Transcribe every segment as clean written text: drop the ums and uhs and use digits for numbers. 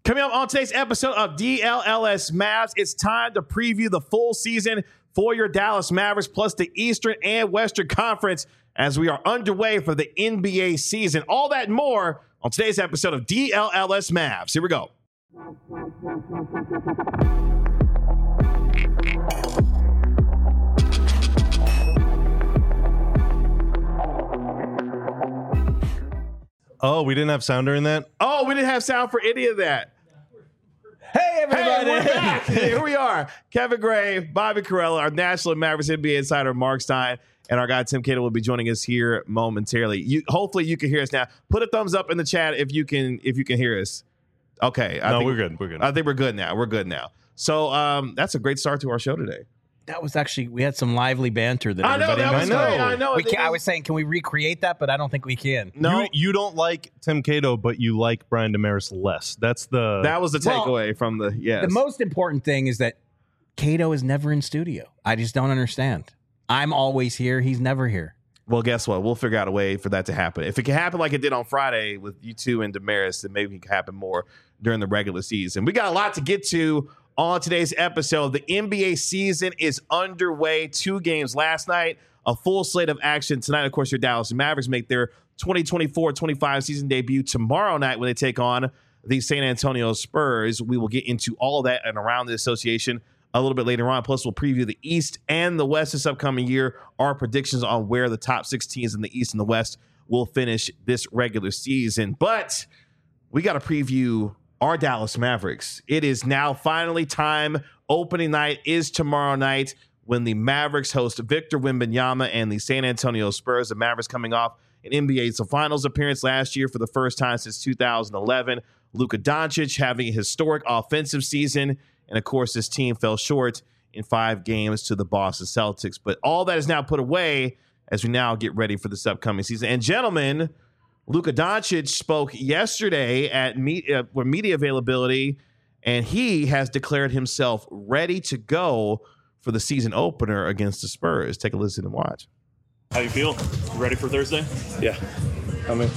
Coming up on today's episode of DLLS Mavs, it's time to preview the full season for your Dallas Mavericks, plus the Eastern and Western Conference as we are underway for the NBA season. All that and more on today's episode of DLLS Mavs. Here we go. Oh, we didn't have sound during that? Oh, we didn't have sound for any of that. Hey, everybody. Hey, we're back. Here we are. Kevin Gray, Bobby Carella, our National Mavericks NBA insider, Mark Stein, and our guy, Tim Cato, will be joining us here momentarily. Hopefully you can hear us now. Put a thumbs up in the chat if you can hear us. Okay. We're good. We're good. I think we're good now. We're good now. So that's a great start to our show today. That was actually, we had some lively banter that everybody that was great. I know. I was saying, can we recreate that? But I don't think we can. No. You don't like Tim Cato, but you like Brian Damaris less. That was the takeaway from the, yes. The most important thing is that Cato is never in studio. I just don't understand. I'm always here. He's never here. Well, guess what? We'll figure out a way for that to happen. If it can happen like it did on Friday with you two and Damaris, then maybe it can happen more during the regular season. We got a lot to get to on today's episode. The NBA season is underway. 2 games last night, a full slate of action tonight. Of course, your Dallas Mavericks make their 2024-25 season debut tomorrow night when they take on the San Antonio Spurs. We will get into all that and around the association a little bit later on. Plus, we'll preview the East and the West this upcoming year, our predictions on where the top 6 teams in the East and the West will finish this regular season. But we got to preview our Dallas Mavericks. It is now finally time. Opening night is tomorrow night when the Mavericks host Victor Wembanyama and the San Antonio Spurs. The Mavericks coming off an NBA Finals appearance last year for the first time since 2011. Luka Doncic having a historic offensive season. And, of course, this team fell short in 5 games to the Boston Celtics. But all that is now put away as we now get ready for this upcoming season. And, gentlemen, Luka Doncic spoke yesterday at media availability, and he has declared himself ready to go for the season opener against the Spurs. Take a listen and watch. How you feel? You ready for Thursday? Yeah. I mean,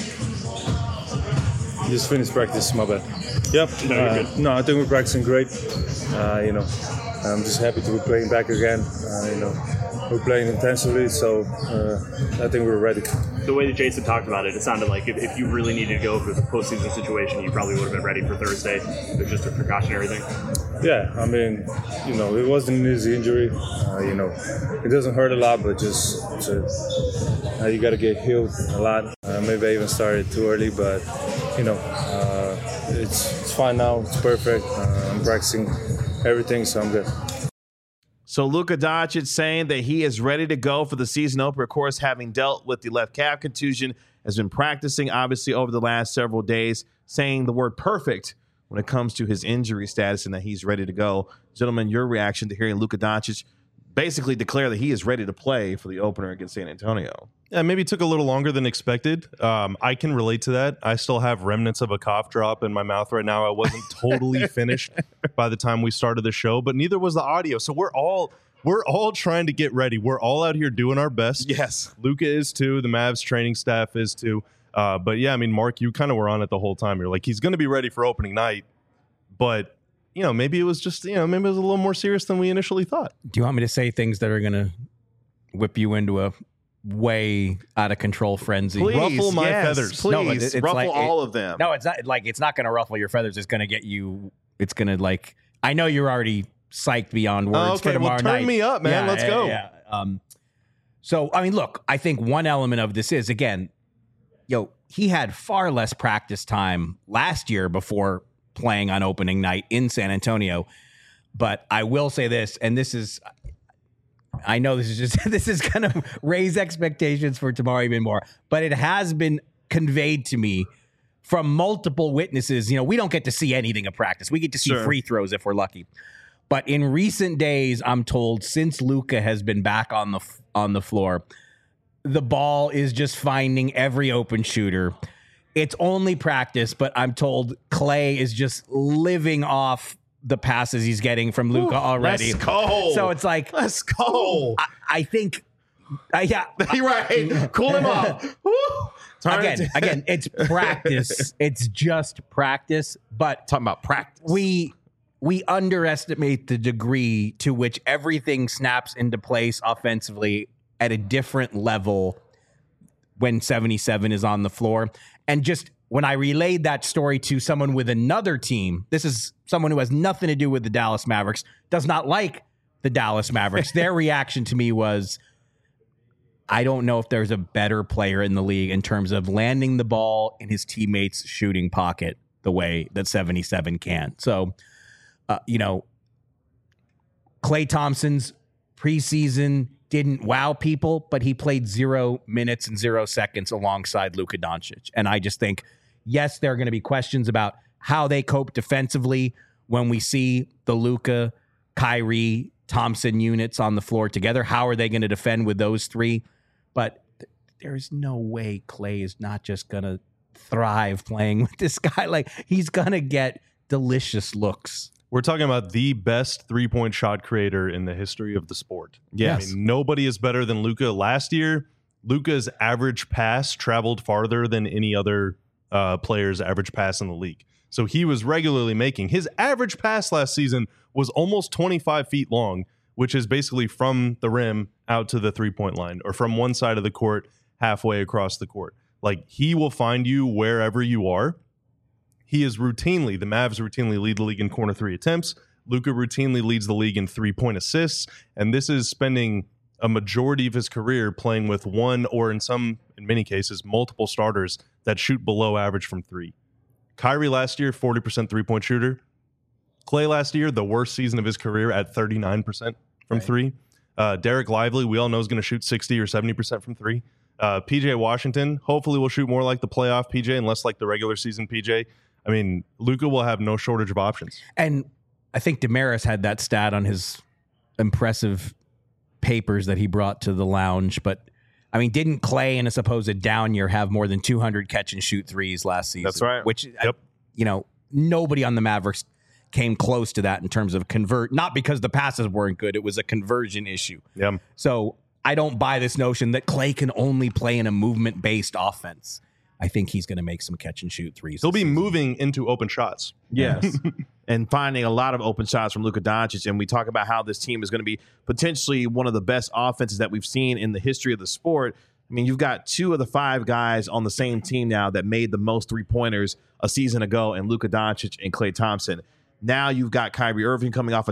just finished practice, my bad. Yep. No, I think we're practicing great. I'm just happy to be playing back again. We're playing intensively, so I think we're ready. The way that Jason talked about it, it sounded like if you really needed to go for the postseason situation, you probably would have been ready for Thursday. It was just a precautionary thing. Yeah, I mean, it wasn't an easy injury. It doesn't hurt a lot, but just you got to get healed a lot. Maybe I even started too early, but it's fine now. It's perfect. I'm practicing everything, so I'm good. So Luka Doncic saying that he is ready to go for the season opener. Of course, having dealt with the left calf contusion, has been practicing, obviously, over the last several days, saying the word perfect when it comes to his injury status and that he's ready to go. Gentlemen, your reaction to hearing Luka Doncic basically declare that he is ready to play for the opener against San Antonio. Yeah, maybe it took a little longer than expected. I can relate to that. I still have remnants of a cough drop in my mouth right now. I wasn't totally finished by the time we started the show, but neither was the audio. So we're all trying to get ready. We're all out here doing our best. Yes. Luka is too. The Mavs training staff is too. But yeah, I mean, Mark, you kind of were on it the whole time. You're like, he's going to be ready for opening night, but maybe it was just, maybe it was a little more serious than we initially thought. Do you want me to say things that are going to whip you into a way out of control frenzy? Please, ruffle my feathers. Please, no, it's ruffle like, all of them. No, it's not going to ruffle your feathers. It's going to get you. It's going to I know you're already psyched beyond words for tomorrow night. Turn me up, man. Let's go. Yeah. So, I mean, look, I think one element of this is, again, he had far less practice time last year before playing on opening night in San Antonio. But I will say this, and this is, I know this is going to raise expectations for tomorrow even more, but it has been conveyed to me from multiple witnesses. We don't get to see anything of practice. We get to see free throws if we're lucky. But in recent days, I'm told, since Luka has been back on the floor, the ball is just finding every open shooter. It's only practice, but I'm told Klay is just living off the passes he's getting from Luka already. Let's go. So it's like, let's go. I think, you're right. Cool him off. Again, it's practice. It's just practice. But Talking about practice. we underestimate the degree to which everything snaps into place offensively at a different level when 77 is on the floor. And just when I relayed that story to someone with another team, this is someone who has nothing to do with the Dallas Mavericks, does not like the Dallas Mavericks. Their reaction to me was, I don't know if there's a better player in the league in terms of landing the ball in his teammates' shooting pocket the way that 77 can. So, Klay Thompson's preseason didn't wow people, but he played 0 minutes and 0 seconds alongside Luka Doncic. And I just think, yes, there are going to be questions about how they cope defensively when we see the Luka, Kyrie, Thompson units on the floor together. How are they going to defend with those three? But there's no way Klay is not just going to thrive playing with this guy. Like, he's going to get delicious looks. We're talking about the best three-point shot creator in the history of the sport. Yes. I mean, nobody is better than Luka. Last year, Luka's average pass traveled farther than any other player's average pass in the league. So he was regularly making. His average pass last season was almost 25 feet long, which is basically from the rim out to the three-point line, or from one side of the court halfway across the court. Like, he will find you wherever you are. The Mavs routinely lead the league in corner three attempts. Luka routinely leads the league in 3-point assists. And this is spending a majority of his career playing with one, or in many cases, multiple starters that shoot below average from three. Kyrie last year, 40% 3-point shooter. Klay last year, the worst season of his career at 39% from three. Derek Lively, we all know, is going to shoot 60 or 70% from three. PJ Washington, hopefully will shoot more like the playoff PJ and less like the regular season PJ. I mean, Luka will have no shortage of options. And I think Damaris had that stat on his impressive papers that he brought to the lounge. But, I mean, didn't Klay in a supposed down year have more than 200 catch and shoot threes last season? That's right. Which, nobody on the Mavericks came close to that in terms of not because the passes weren't good. It was a conversion issue. Yeah. So I don't buy this notion that Klay can only play in a movement-based offense. I think he's going to make some catch and shoot threes. He'll be moving into open shots. Yes. And finding a lot of open shots from Luka Doncic. And we talk about how this team is going to be potentially one of the best offenses that we've seen in the history of the sport. I mean, you've got 2 of the 5 guys on the same team now that made the most three-pointers a season ago, and Luka Doncic and Klay Thompson. Now you've got Kyrie Irving coming off a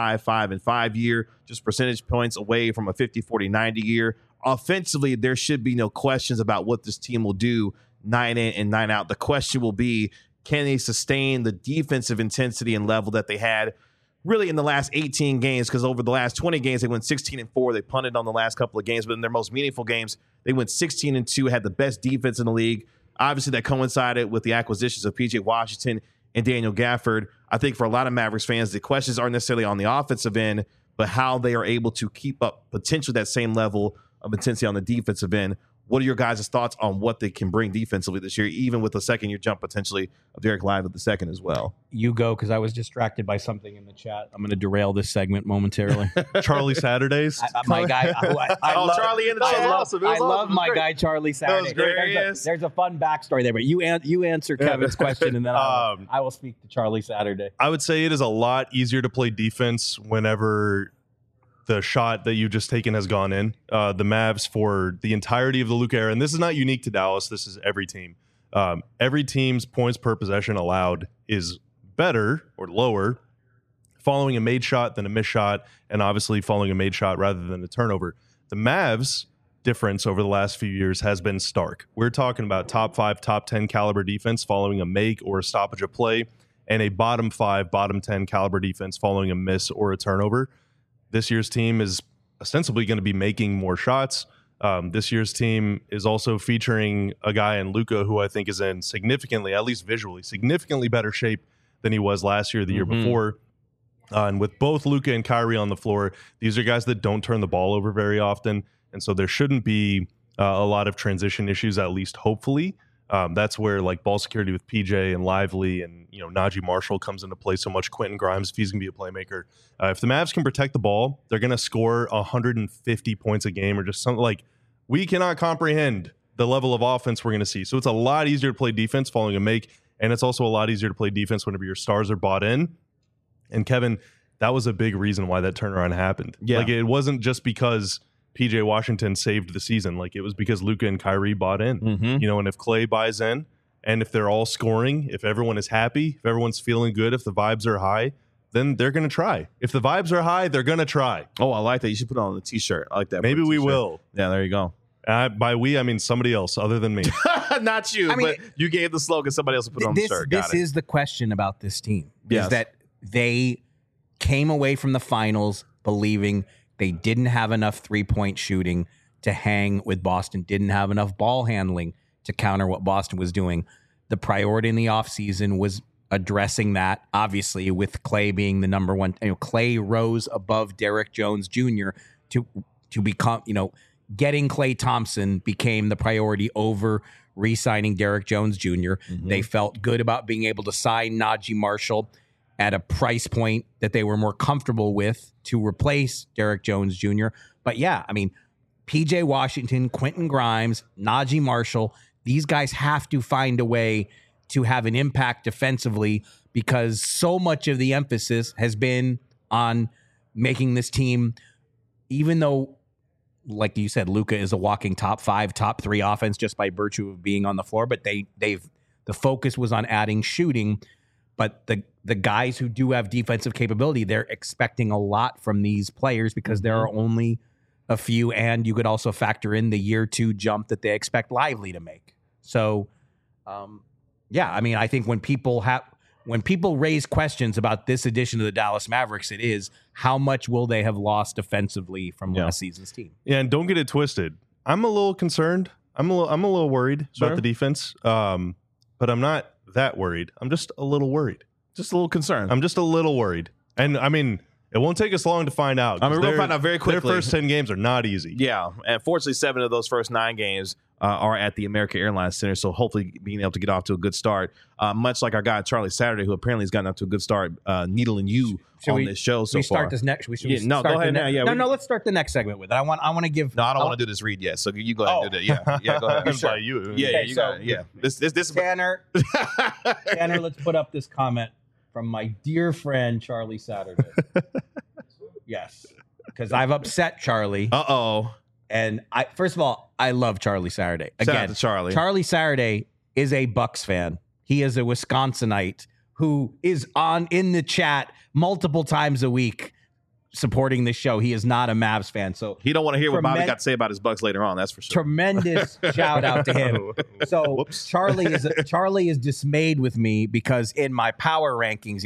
25-5-5 year, just percentage points away from a 50-40-90 year. Offensively, there should be no questions about what this team will do 9 in and 9 out. The question will be, can they sustain the defensive intensity and level that they had really in the last 18 games? Because over the last 20 games, they went 16-4. They punted on the last couple of games, but in their most meaningful games, they went 16-2, had the best defense in the league. Obviously, that coincided with the acquisitions of PJ Washington and Daniel Gafford. I think for a lot of Mavericks fans, the questions aren't necessarily on the offensive end, but how they are able to keep up potentially that same level of intensity on the defensive end. What are your guys' thoughts on what they can bring defensively this year, even with a second-year jump potentially of Derek Lively the second as well? You go, because I was distracted by something in the chat. I'm going to derail this segment momentarily. Charlie Saturdays. My guy. Charlie in the chat. I love my guy, Charlie Saturday. There's a fun backstory there, but you answer Kevin's question, and then I will speak to Charlie Saturday. I would say it is a lot easier to play defense whenever the shot that you've just taken has gone in. The Mavs, for the entirety of the Luka era, and this is not unique to Dallas, this is every team. Every team's points per possession allowed is better or lower following a made shot than a missed shot, and obviously following a made shot rather than a turnover. The Mavs difference over the last few years has been stark. We're talking about top 5, top 10 caliber defense following a make or a stoppage of play, and a bottom 5, bottom 10 caliber defense following a miss or a turnover. This year's team is ostensibly going to be making more shots. This year's team is also featuring a guy in Luka who I think is in significantly, at least visually, significantly better shape than he was last year, the year before. And with both Luka and Kyrie on the floor, these are guys that don't turn the ball over very often. And so there shouldn't be a lot of transition issues, at least hopefully. That's where like ball security with PJ and Lively and Najee Marshall comes into play so much. Quentin Grimes, if he's going to be a playmaker, if the Mavs can protect the ball, they're going to score 150 points a game or just something. Like, we cannot comprehend the level of offense we're going to see. So it's a lot easier to play defense following a make, and it's also a lot easier to play defense whenever your stars are bought in. And Kevin, that was a big reason why that turnaround happened. Yeah. Like, it wasn't just because PJ Washington saved the season. Like, it was because Luka and Kyrie bought in. Mm-hmm. And if Klay buys in, and if they're all scoring, if everyone is happy, if everyone's feeling good, if the vibes are high, then they're going to try. If the vibes are high, they're going to try. Oh, I like that. You should put it on the t-shirt. I like that. Maybe we will. Yeah, there you go. By we, I mean somebody else other than me. Not you, but you gave the slogan. Somebody else will put it on the shirt. This is the question about this team. Yes. Is that they came away from the finals believing they didn't have enough three-point shooting to hang with Boston, didn't have enough ball handling to counter what Boston was doing. The priority in the offseason was addressing that, obviously, with Klay being the number one. Klay rose above Derek Jones Jr. to become, getting Klay Thompson became the priority over re-signing Derek Jones Jr. Mm-hmm. They felt good about being able to sign Najee Marshall at a price point that they were more comfortable with to replace Derek Jones Jr. But yeah, I mean, PJ Washington, Quentin Grimes, Najee Marshall, these guys have to find a way to have an impact defensively because so much of the emphasis has been on making this team, even though, like you said, Luka is a walking top 5, top 3 offense just by virtue of being on the floor, but the focus was on adding shooting. But the guys who do have defensive capability, they're expecting a lot from these players because there are only a few, and you could also factor in the year 2 jump that they expect Lively to make. So, yeah, I mean, I think when people raise questions about this edition of the Dallas Mavericks, it is how much will they have lost defensively from last season's team? Yeah, and don't get it twisted. I'm a little concerned. I'm a little worried about the defense, but I'm not that worried. I'm just a little worried. Just a little concerned. I'm just a little worried. And I mean, it won't take us long to find out. I mean, we'll find out very quickly. Their first 10 games are not easy. Yeah. And fortunately, 7 of those first 9 games are at the American Airlines Center. So hopefully being able to get off to a good start, much like our guy, Charlie Saturday, who apparently has gotten off to a good start, needling you on this show so far. We start this next. Go ahead now. Yeah, no, let's start the next segment with it. I want to give. No, I don't want to do this read yet. So you go ahead and do that. Yeah, go ahead. Sure. You. Yeah, okay, you got it. Yeah. This Tanner, let's put up this comment from my dear friend Charlie Saturday. Yes, because I've upset Charlie. And first of all, I love Charlie Saturday. Again, shout out to Charlie. Charlie Saturday is a Bucks fan. He is a Wisconsinite who is in the chat multiple times a week supporting the show. He is not a Mavs fan. So he don't want to hear what Bobby got to say about his Bucks later on. That's for sure. Tremendous shout out to him. So Charlie is dismayed with me because in my power rankings,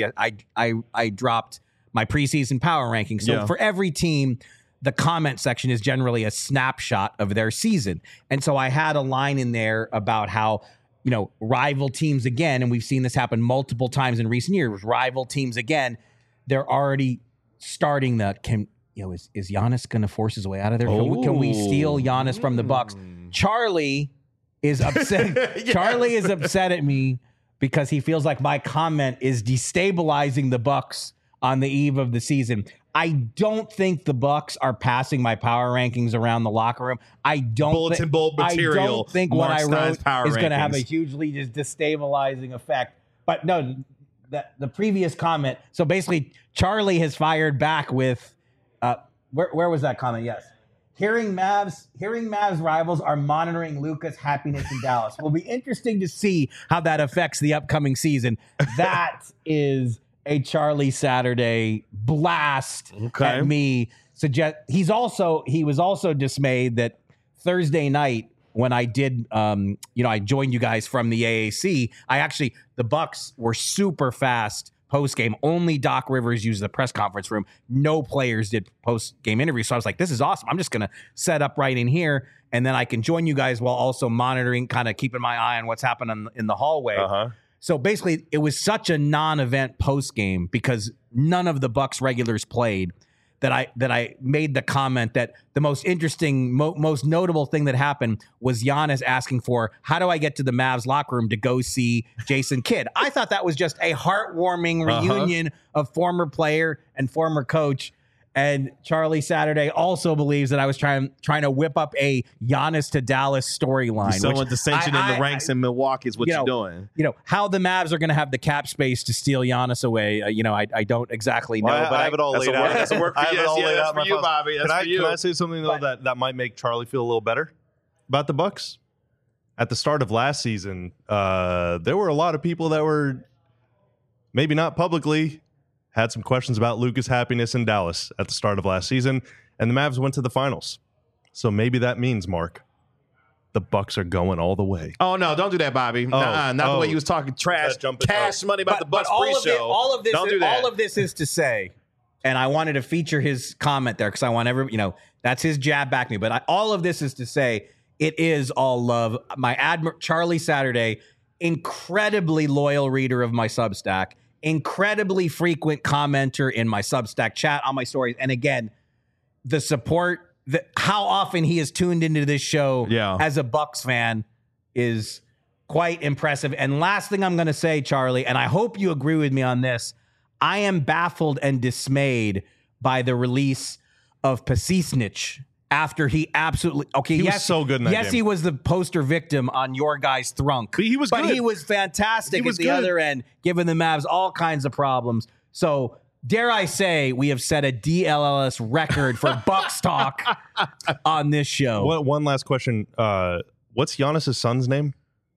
I dropped my preseason power rankings. So for every team, the comment section is generally a snapshot of their season. And so I had a line in there about how, rival teams again, and we've seen this happen multiple times in recent years, rival teams again, they're already starting is Giannis going to force his way out of there? Can we steal Giannis from the Bucks? Charlie is upset. Yes. Charlie is upset at me because he feels like my comment is destabilizing the Bucks on the eve of the season. I don't think the Bucks are passing my power rankings around the locker room. I don't bulletin board material. I don't think what I wrote is going to have a hugely just destabilizing effect. But no, the previous comment. So basically, Charlie has fired back with where was that comment? Yes. Hearing Mavs rivals are monitoring Luka's happiness in Dallas. Will be interesting to see how that affects the upcoming season. That is a Charlie Saturday blast at me. He was also dismayed that Thursday night when I did, I joined you guys from the AAC. The Bucks were super fast post-game. Only Doc Rivers used the press conference room. No players did post-game interviews. So I was like, this is awesome. I'm just going to set up right in here, and then I can join you guys while also monitoring, kind of keeping my eye on what's happening in the hallway. So basically, it was such a non-event post-game because none of the Bucks regulars played that I made the comment that the most interesting, most notable thing that happened was Giannis asking for, how do I get to the Mavs locker room to go see Jason Kidd? I thought that was just a heartwarming reunion of former player and former coach. And Charlie Saturday also believes that I was trying to whip up a Giannis to Dallas storyline. Someone dissension in the ranks in Milwaukee is what you're doing. How the Mavs are going to have the cap space to steal Giannis away. I don't exactly know. Well, but I have it all laid out. That's a work for you. That's for you, Bobby. That's for you. Can I say something though that might make Charlie feel a little better about the Bucks? At the start of last season, there were a lot of people that were maybe not publicly had some questions about Luka's happiness in Dallas at the start of last season, and the Mavs went to the finals. So maybe that means, Mark, the Bucks are going all the way. Oh no! Don't do that, Bobby. Not the way you was talking trash, cash money about the Bucks pre-show. All of this is to say, and I wanted to feature his comment there because I want that's his jab back me. But all of this is to say, it is all love. My Charlie Saturday, incredibly loyal reader of my Substack, incredibly frequent commenter in my Substack chat on my stories. And again, the support, how often he is tuned into this show as a Bucks fan is quite impressive. And last thing I'm going to say, Charlie, and I hope you agree with me on this, I am baffled and dismayed by the release of Pasicnic after he absolutely he was so good in that game. He was the poster victim on your guy's thrunk. But he was good. He was fantastic at the other end, giving the Mavs all kinds of problems. So dare I say we have set a DLLS record for Bucks talk on this show. One last question. What's Giannis' son's name?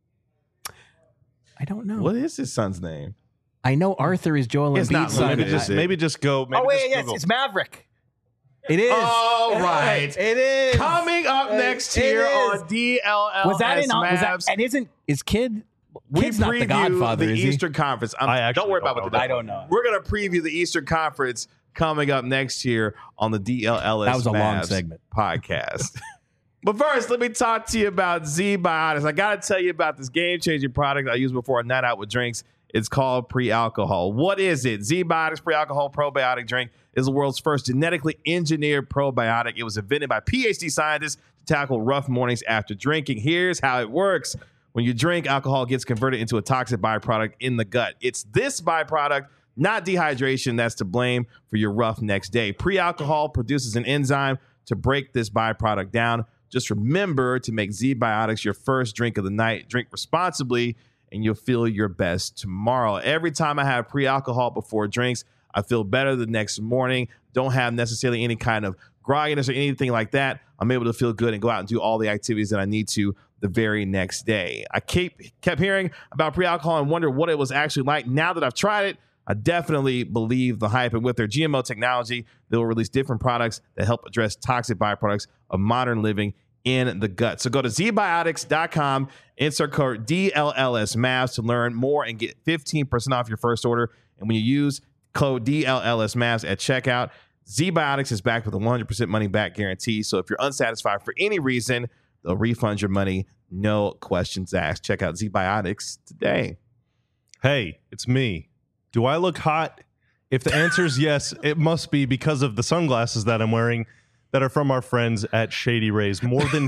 I don't know. What is his son's name? I know Arthur is Joel Embiid's son. Maybe just go. It's Maverick. It is. All right. It is. Coming up next here on DLLS Was that in Mavs. and is Kid's not the preview Godfather, the is he? Eastern Conference. Don't worry about what I don't know. We're going to preview the Eastern Conference coming up next year on the DLLS That was a Mavs long segment. podcast. But first, let me talk to you about ZBiotics. I got to tell you about this game-changing product I used before a night out with drinks. It's called Pre-Alcohol. What is it? ZBiotics Pre-Alcohol Probiotic Drink is the world's first genetically engineered probiotic. It was invented by PhD scientists to tackle rough mornings after drinking. Here's how it works. When you drink, alcohol gets converted into a toxic byproduct in the gut. It's this byproduct, not dehydration, that's to blame for your rough next day. Pre-alcohol produces an enzyme to break this byproduct down. Just remember to make ZBiotics your first drink of the night. Drink responsibly, and you'll feel your best tomorrow. Every time I have pre-alcohol before drinks, I feel better the next morning. Don't have necessarily any kind of grogginess or anything like that. I'm able to feel good and go out and do all the activities that I need to the very next day. I kept hearing about pre-alcohol and wonder what it was actually like. Now that I've tried it, I definitely believe the hype. And with their GMO technology, they will release different products that help address toxic byproducts of modern living in the gut. So go to zbiotics.com, insert code DLLSMavs to learn more and get 15% off your first order. And when you use code DLLSMavs at checkout, ZBiotics is backed with a 100% money back guarantee. So if you're unsatisfied for any reason, they'll refund your money. No questions asked. Check out ZBiotics today. Hey, it's me. Do I look hot? If the answer is yes, it must be because of the sunglasses that I'm wearing that are from our friends at Shady Rays. More than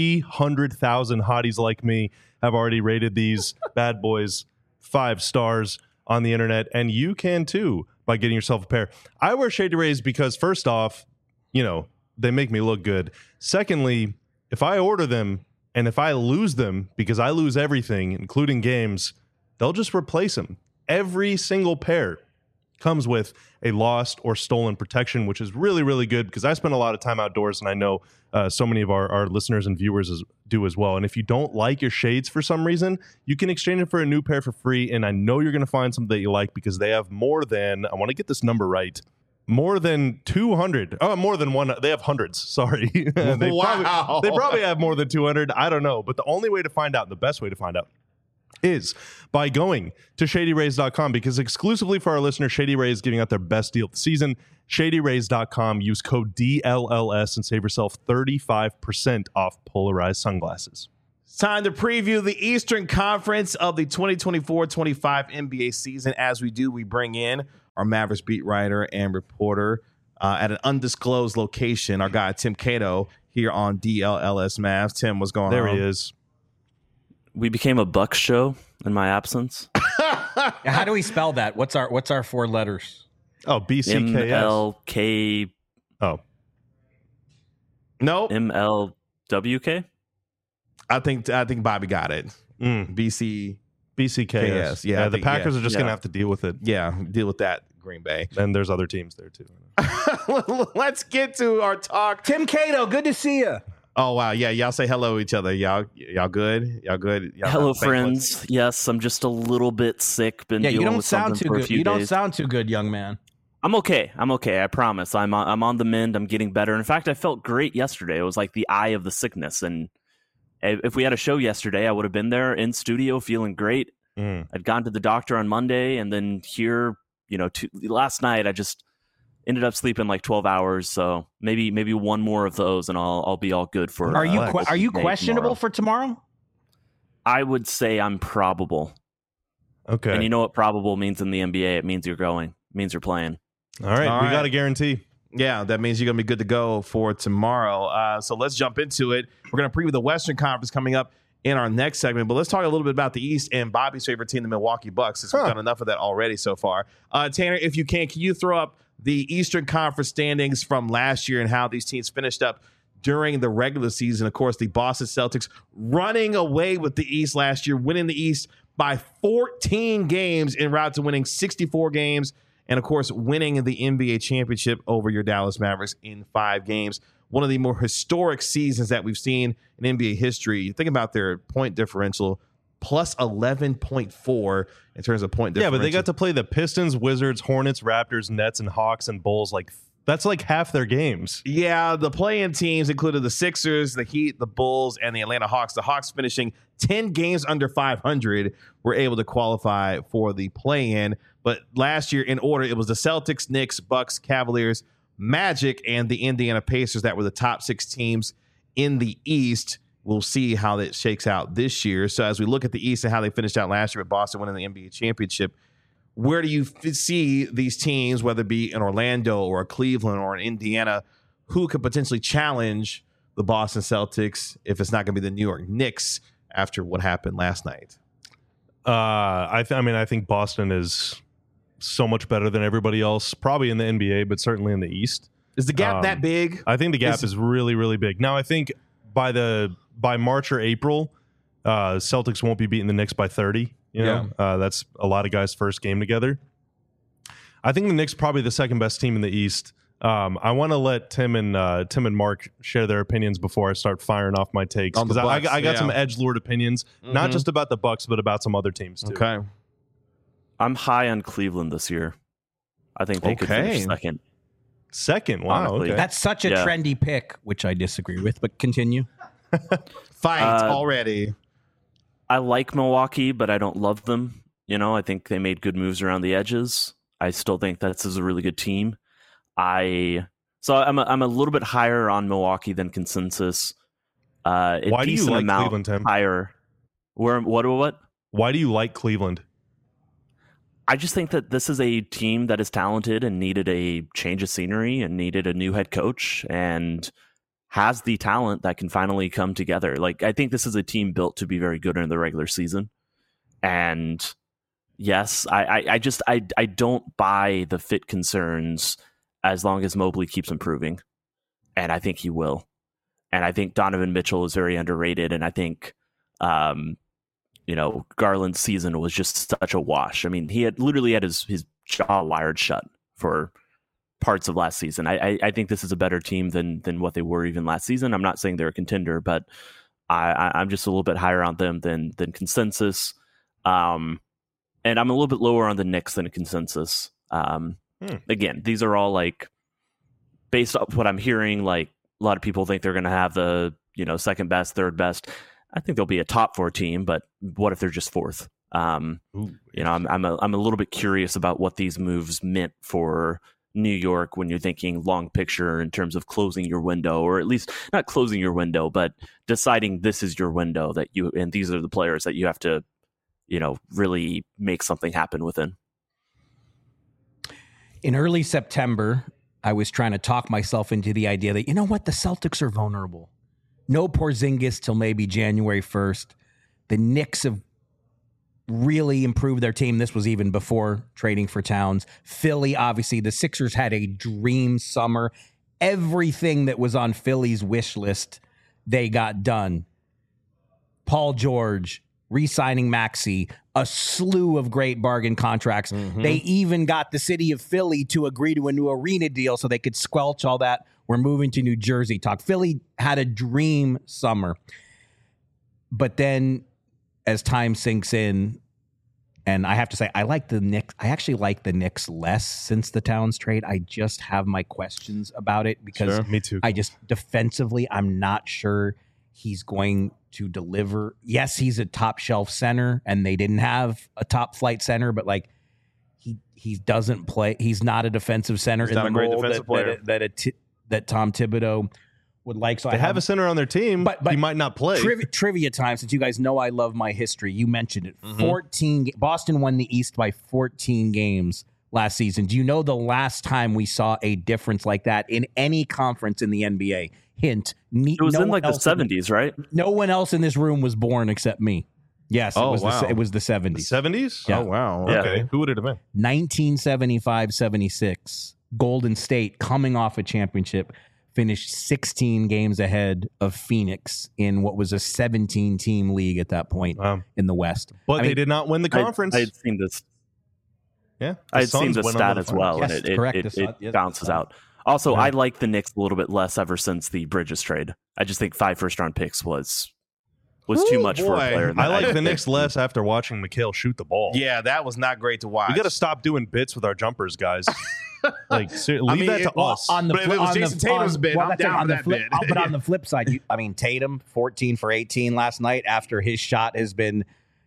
300,000 hotties like me have already rated these bad boys 5 stars on the internet, and you can too by getting yourself a pair. I wear Shady Rays because first off, they make me look good. Secondly, if I order them and if I lose them, because I lose everything, including games, they'll just replace them. Every single pair comes with a lost or stolen protection, which is really, really good because I spend a lot of time outdoors, and I know so many of our listeners and viewers do as well. And if you don't like your shades for some reason, you can exchange it for a new pair for free, and I know you're going to find something that you like because they have more than, I want to get this number right, more than 200. Oh, more than one. They have hundreds. Sorry. They probably have more than 200. I don't know. But the only way to find out, the best way to find out, is by going to ShadyRays.com, because exclusively for our listeners, Shady Rays is giving out their best deal of the season. ShadyRays.com. Use code DLLS and save yourself 35% off polarized sunglasses. It's time to preview the Eastern Conference of the 2024-25 NBA season. As we do, we bring in our Mavericks beat writer and reporter at an undisclosed location, our guy Tim Cato here on DLLS Mavs. Tim, what's going on? There he is. We became a Bucks show in my absence. How do we spell that? What's our 4 letters? Oh, BCKS. MLK Oh, Nope. MLWK. I think Bobby got it. BC. BCKS. Yeah, I the think- Packers are just going Yeah. to have to deal with it. Yeah, deal with that, Green Bay. And there's other teams there too. Let's get to our talk. Tim Cato, good to see you. Oh wow, yeah, y'all say hello to each other. Y'all good? Y'all good? Y'all Hello, not thankful? friends. Yes, I'm just a little bit sick. Been Yeah, you dealing don't with sound something too for a good. few You don't days. sound too good, young man. I'm okay. I promise. I'm on the mend. I'm getting better. In fact, I felt great yesterday. It was like the eye of the sickness. And if we had a show yesterday, I would have been there in studio feeling great. I'd gone to the doctor on Monday, and then here, last night I just ended up sleeping like 12 hours. So maybe one more of those, and I'll be all good for. Are you day questionable tomorrow. for tomorrow? I would say I'm probable. Okay. And you know what probable means in the NBA? It means you're going. It means you're playing. All right. All We right. got a guarantee. Yeah, that means you're going to be good to go for tomorrow. So let's jump into it. We're going to preview the Western Conference coming up in our next segment, but let's talk a little bit about the East and Bobby's favorite team, the Milwaukee Bucks, since we've done enough of that already so far. Tanner, if you can you throw up the Eastern Conference standings from last year and how these teams finished up during the regular season? Of course, the Boston Celtics running away with the East last year, winning the East by 14 games en route to winning 64 games. And, of course, winning the NBA championship over your Dallas Mavericks in 5 games. One of the more historic seasons that we've seen in NBA history. You think about their point differential, plus 11.4 in terms of point differential. Yeah, but they got to play the Pistons, Wizards, Hornets, Raptors, Nets, and Hawks and Bulls. That's like half their games. Yeah, the play-in teams included the Sixers, the Heat, the Bulls, and the Atlanta Hawks. The Hawks finishing 10 games under 500 were able to qualify for the play-in. But last year, in order, it was the Celtics, Knicks, Bucks, Cavaliers, Magic, and the Indiana Pacers that were the top 6 teams in the East. We'll see how that shakes out this year. So as we look at the East and how they finished out last year with Boston winning the NBA championship, where do you see these teams, whether it be in Orlando or Cleveland or in Indiana, who could potentially challenge the Boston Celtics if it's not going to be the New York Knicks after what happened last night? I think Boston is so much better than everybody else, probably in the NBA, but certainly in the East. Is the gap that big? I think the gap is really, really big. Now, I think by March or April, Celtics won't be beating the Knicks by 30. That's a lot of guys' first game together. I think the Knicks probably the second best team in the East. I want to let Tim and Mark share their opinions before I start firing off my takes, On the because I Bucks, got some edgelord opinions, not just about the Bucks, but about some other teams too. Okay. I'm high on Cleveland this year. I think they could finish second. Second, wow, Honestly. okay. That's such a Yeah. trendy pick, which I disagree with, but continue. Fight already. I like Milwaukee, but I don't love them. I think they made good moves around the edges. I still think this is a really good team. I'm a little bit higher on Milwaukee than consensus. Why do you like amount Cleveland, Tim? higher? What? Why do you like Cleveland? I just think that this is a team that is talented and needed a change of scenery and needed a new head coach and has the talent that can finally come together. I think this is a team built to be very good in the regular season. And yes, I don't buy the fit concerns as long as Mobley keeps improving. And I think he will. And I think Donovan Mitchell is very underrated. And I think, Garland's season was just such a wash. I mean, he had literally had his jaw wired shut for parts of last season. I think this is a better team than what they were even last season. I'm not saying they're a contender, but I'm just a little bit higher on them than consensus. And I'm a little bit lower on the Knicks than consensus. Again, these are all based off what I'm hearing, a lot of people think they're going to have the, second best, third best. I think they'll be a top 4 team, but what if they're just 4th? I'm a little bit curious about what these moves meant for New York when you're thinking long picture in terms of closing your window, or at least not closing your window, but deciding this is your window and these are the players that you have to, really make something happen within. In early September, I was trying to talk myself into the idea that, the Celtics are vulnerable. No Porzingis till maybe January 1st. The Knicks have really improved their team. This was even before trading for Towns. Philly, obviously, the Sixers had a dream summer. everything that was on Philly's wish list, they got done. Paul George, re-signing Maxey, a slew of great bargain contracts. They even got the city of Philly to agree to a new arena deal so they could squelch all that "we're moving to New Jersey" talk. Philly had a dream summer. But then as time sinks in, and I have to say, I like the Knicks. I actually like the Knicks less since the Towns trade. I just have my questions about it because me too. I just defensively, I'm not sure he's going to deliver. Yes, he's a top shelf center, and they didn't have a top flight center, but like he doesn't play. He's not a defensive center He's in not the a great mold defensive player. that Tom Thibodeau would like. So They I have a center on their team, but he might not play. Trivia time, since you guys know I love my history. You mentioned it. 14. Boston won the East by 14 games last season. Do you know the last time we saw a difference like that in any conference in the NBA? Hint. It was in like the 70s, right? No one else in this room was born except me. Yes, Oh, it was wow. it was the 70s. 70s? Yeah. Oh, wow. Yeah. Okay. Who would it have been? 1975-76. Golden State, coming off a championship, finished 16 games ahead of Phoenix in what was a 17-team league at that point in the West. But I they mean, did not win the conference. I had seen this. Yeah. I had seen Suns the went stat on to as the well, finals. and Yes, correct. The Sun- it yes, bounces the Sun. out. Also, Yeah. I like the Knicks a little bit less ever since the Bridges trade. I just think 5 first-round picks was too much for a boy. player. I like the Knicks less after watching Mikhail shoot the ball. Yeah, that was not great to watch. We got to stop doing bits with our jumpers, guys. Like, leave I mean, that to well, us. On the But if it was on the- Jason Tatum's on- bid, well, I'm that's it, down on for the that flip, bid. But on the flip side, Tatum 14 for 18 last night after his shot has been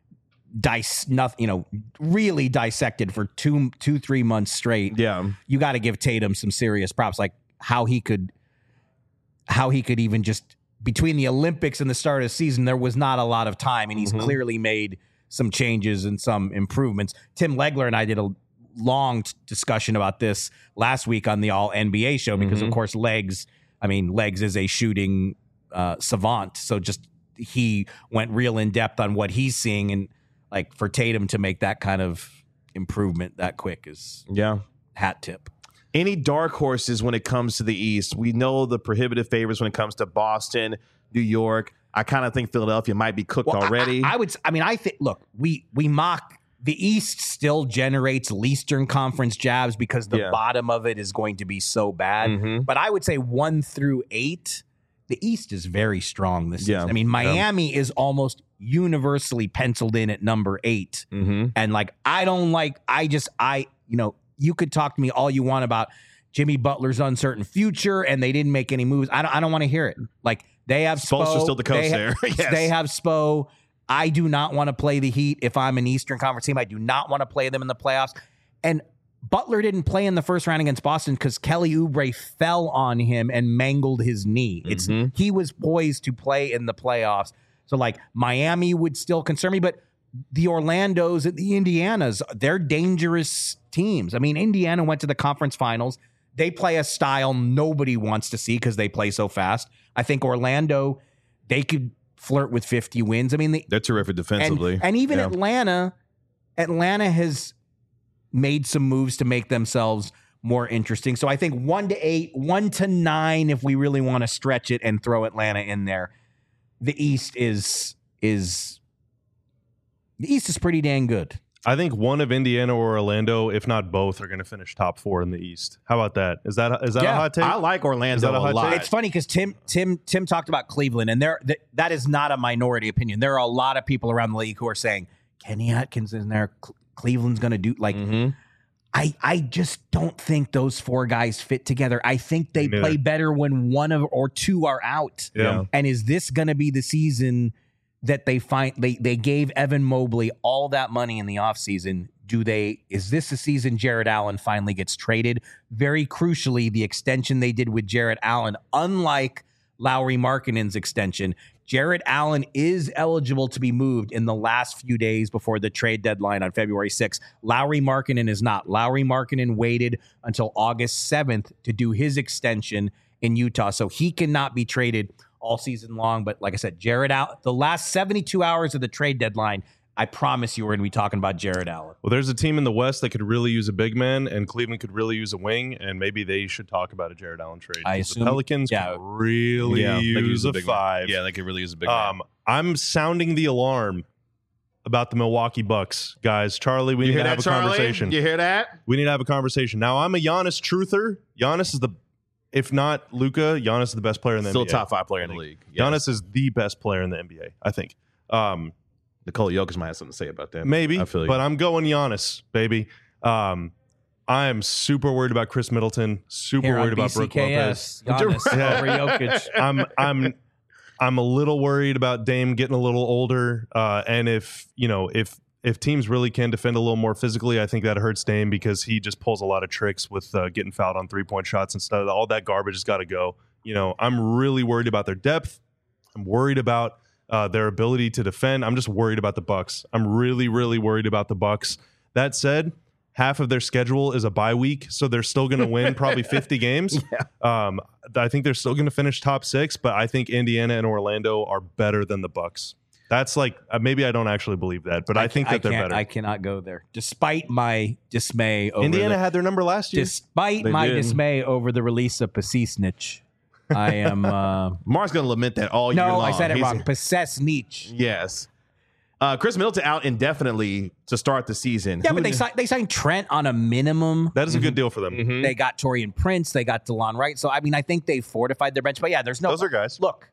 really dissected for 3 months straight. Yeah. You got to give Tatum some serious props, like how he could even just between the Olympics and the start of the season, there was not a lot of time, and he's clearly made some changes and some improvements. Tim Legler and I did a long discussion about this last week on the All NBA show because, of course, Legs is a shooting savant, so just he went real in depth on what he's seeing, and like for Tatum to make that kind of improvement that quick is hat tip. Any dark horses when it comes to the East? We know the prohibitive favorites when it comes to Boston, New York. I kind of think Philadelphia might be cooked already. I think, look, we mock the East still generates Eastern Conference jabs because the bottom of it is going to be so bad. But I would say 1 through 8, the East is very strong this season. I mean, Miami is almost universally penciled in at number 8. And like, you could talk to me all you want about Jimmy Butler's uncertain future and they didn't make any moves. I don't want to hear it. Like, they have Spo still the coach there. Yes. They have Spo. I do not want to play the Heat if I'm an Eastern Conference team. I do not want to play them in the playoffs. And Butler didn't play in the first round against Boston because Kelly Oubre fell on him and mangled his knee. He was poised to play in the playoffs. So, like, Miami would still concern me, but the Orlandos and the Indianas, they're dangerous teams. I mean, Indiana went to the conference finals. They play a style nobody wants to see because they play so fast. I think Orlando, they could flirt with 50 wins. I mean, they're terrific defensively. And even Atlanta has made some moves to make themselves more interesting. So I think 1 to 8, 1 to 9, if we really want to stretch it and throw Atlanta in there. The East is pretty dang good. I think one of Indiana or Orlando, if not both, are going to finish top 4 in the East. How about that? Is that a hot take? I like Orlando a a hot lot. take? It's funny because Tim talked about Cleveland, and that is not a minority opinion. There are a lot of people around the league who are saying Kenny Atkins in there. Cleveland's going to do like. I just don't think those 4 guys fit together. I think they play better when 1 or 2 are out. Yeah. And is this going to be the season that they gave Evan Mobley all that money in the offseason? Is this the season Jarrett Allen finally gets traded? Very crucially, the extension they did with Jarrett Allen, unlike Lauri Markkanen's extension, Jarrett Allen is eligible to be moved in the last few days before the trade deadline on February 6th. Lauri Markkanen is not. Lauri Markkanen waited until August 7th to do his extension in Utah, so he cannot be traded all season long. But like I said, Jarrett Allen, the last 72 hours of the trade deadline, I promise you we're going to be talking about Jared Allen. Well, there's a team in the West that could really use a big man, and Cleveland could really use a wing, and maybe they should talk about a Jared Allen trade. I 'Cause assume- the Pelicans yeah. could really they could use a big five. Man. Yeah, they could really use a big man. I'm sounding the alarm about the Milwaukee Bucks, guys. Charlie, we You need hear to have that, a Charlie? conversation. You hear that? We need to have a conversation. Now, I'm a Giannis truther. Giannis is if not Luka, Giannis is the best player in the Still NBA. top 5 player in the league. Giannis is the best player in the NBA, I think. Nikola Jokic might have something to say about that. Maybe, I feel you. but I'm going Giannis, baby. I am super worried about Chris Middleton. Super Here on worried about Brook Lopez. BCKS, Giannis Yeah. over Jokic. I'm a little worried about Dame getting a little older, and if teams really can defend a little more physically, I think that hurts Dame because he just pulls a lot of tricks with getting fouled on 3-point shots and stuff. All that garbage has got to go. I'm really worried about their depth. I'm worried about their ability to defend. I'm just worried about the Bucks. I'm really, really worried about the Bucks. That said, half of their schedule is a bye week, so they're still going to win probably 50 games. Yeah. I think they're still going to finish top 6, but I think Indiana and Orlando are better than the Bucks. That's like maybe I don't actually believe that, but I think that they're better. I cannot go there, despite my dismay. Over Indiana had their number last year. Despite my dismay over the release of Pasisnich, I am. Mark's going to lament that all year No, long. I said it wrong. Pasesnich. Yes. Chris Middleton out indefinitely to start the season. Yeah, but they signed Trent on a minimum. That is a good deal for them. Mm-hmm. They got Torian Prince. They got DeLon Wright. So, I mean, I think they fortified their bench. But, yeah, there's no... Those are guys. Look,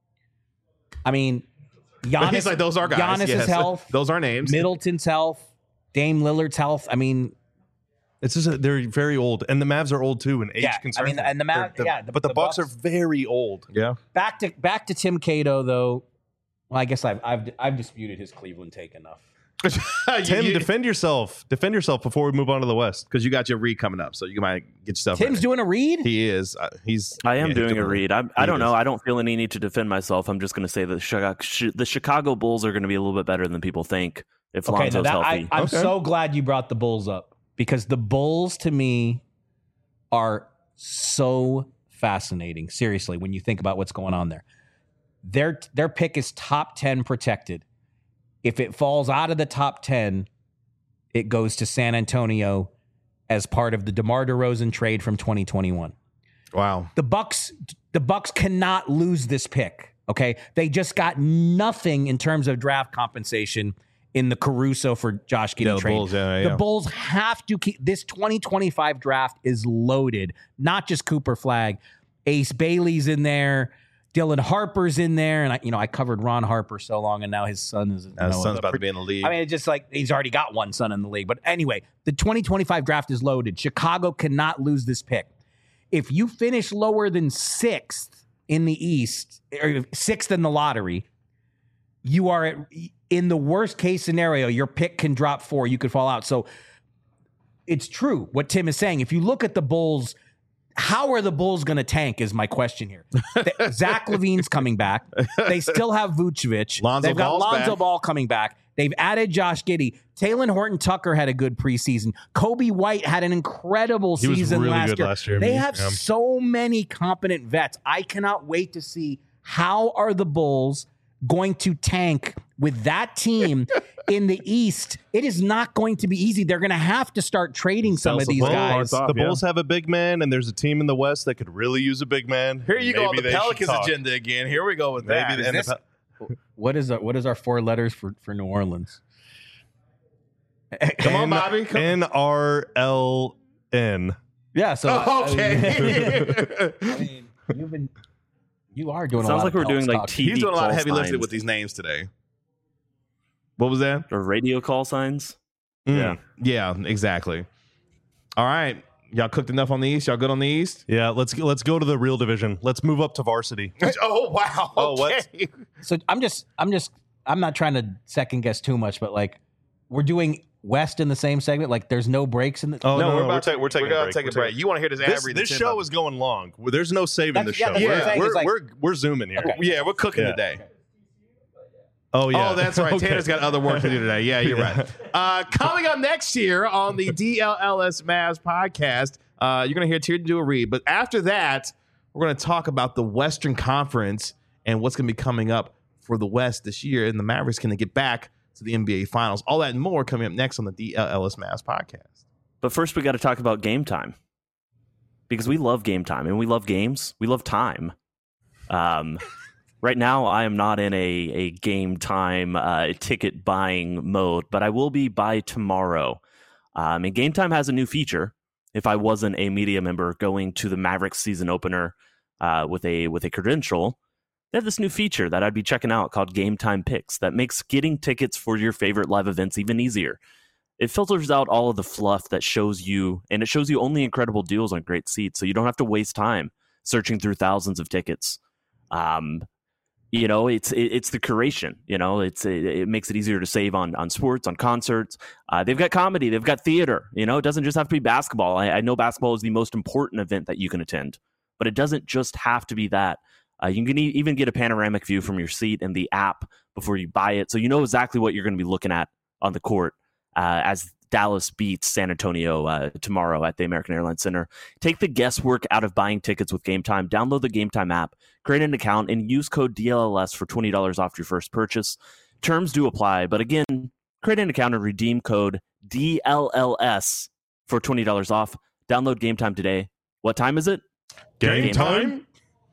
I mean, Giannis... He's like, those are guys. Giannis's yes. health. Those are names. Middleton's health. Dame Lillard's health. I mean... It's just they're very old, and the Mavs are old too, and age Yeah, concerns. I mean, and the Mavs... but the Bucks are very old. Yeah. Back to Tim Cato, though. Well, I guess I've disputed his Cleveland take enough. Tim, defend yourself. Defend yourself before we move on to the West. Because you got your read coming up, so you might get yourself Tim's ready. doing a read? He is. I am he's doing a read. I don't know. is. I don't feel any need to defend myself. I'm just going to say that the Chicago Bulls are going to be a little bit better than people think if Lonzo's healthy. I'm so glad you brought the Bulls up, because the Bulls, to me, are so fascinating. Seriously, when you think about what's going on there. Their pick is top 10 protected. If it falls out of the top 10, it goes to San Antonio as part of the DeMar DeRozan trade from 2021. Wow. The Bucks cannot lose this pick. Okay, they just got nothing in terms of draft compensation in the Caruso for Josh Giddey trade. Bulls, The Bulls have to keep this 2025 draft is loaded. Not just Cooper Flagg, Ace Bailey's in there. Dylan Harper's in there, and I covered Ron Harper so long, and now his son is. His son's about to be in the league. I mean, it's just like he's already got one son in the league. But anyway, the 2025 draft is loaded. Chicago cannot lose this pick. If you finish lower than 6th in the East, or 6th in the lottery, you are in the worst case scenario. Your pick can drop 4. You could fall out. So it's true what Tim is saying. If you look at the Bulls. How are the Bulls going to tank is my question here. Zach LaVine's coming back. They still have Vucevic. They've got Lonzo Ball coming back. They've added Josh Giddey. Taylor Horton-Tucker had a good preseason. Kobe White had an incredible season really last good year. last year. They have so many competent vets. I cannot wait to see how are the Bulls going to tank with that team in the East. It is not going to be easy. They're going to have to start trading some of these guys. The Bulls have a big man, and there's a team in the West that could really use a big man. Here you go on the Pelicans agenda again. Here we go with that. What is our 4 letters for New Orleans? Come on, Bobby. NRLN. Yeah. So okay. I mean, you are doing. Sounds a lot like of we're doing like TV. He's doing a lot of heavy call lifting signs. with these names today. What was that? Or radio call signs. Yeah, exactly. All right, y'all cooked enough on the East. Y'all good on the East? Yeah, let's go to the real division. Let's move up to varsity. Oh wow. Oh, what? Okay. So I'm not trying to second guess too much, but like we're doing West in the same segment. Like there's no breaks in the. Oh no, we're taking gonna take a break. You want to hear this ad read? This show is going long. There's no saving this show. that's what I'm saying. It's like- We're zooming here. Okay. Yeah, we're cooking Yeah. today. Oh yeah. Oh, that's right. Okay. Tanner's got other work to do today. Yeah, you're right. Coming up next year on the DLLS Mavs podcast, you're going to hear Tier do a read. But after that, we're going to talk about the Western Conference and what's going to be coming up for the West this year. And the Mavericks going to get back to the NBA Finals. All that and more coming up next on the DLLS Mavs podcast. But first, we got to talk about game time, because we love game time and we love games. We love time. Right now, I am not in a game time ticket buying mode, but I will be by tomorrow. And Game Time has a new feature. If I wasn't a media member going to the Mavericks season opener with a credential, they have this new feature that I'd be checking out called Game Time Picks that makes getting tickets for your favorite live events even easier. It filters out all of the fluff that shows you, and it shows you only incredible deals on great seats, so you don't have to waste time searching through thousands of tickets. It's the curation. It makes it easier to save on sports, on concerts. They've got comedy, they've got theater. It doesn't just have to be basketball. I know basketball is the most important event that you can attend, but it doesn't just have to be that. You can even get a panoramic view from your seat in the app before you buy it, so you know exactly what you're going to be looking at on the court as Dallas beats San Antonio tomorrow at the American Airlines Center. Take the guesswork out of buying tickets with Game Time. Download the Game Time app, create an account, and use code DLLS for $20 off your first purchase. Terms do apply, but again, create an account and redeem code DLLS for $20 off. Download Game Time today. What time is it? Game time?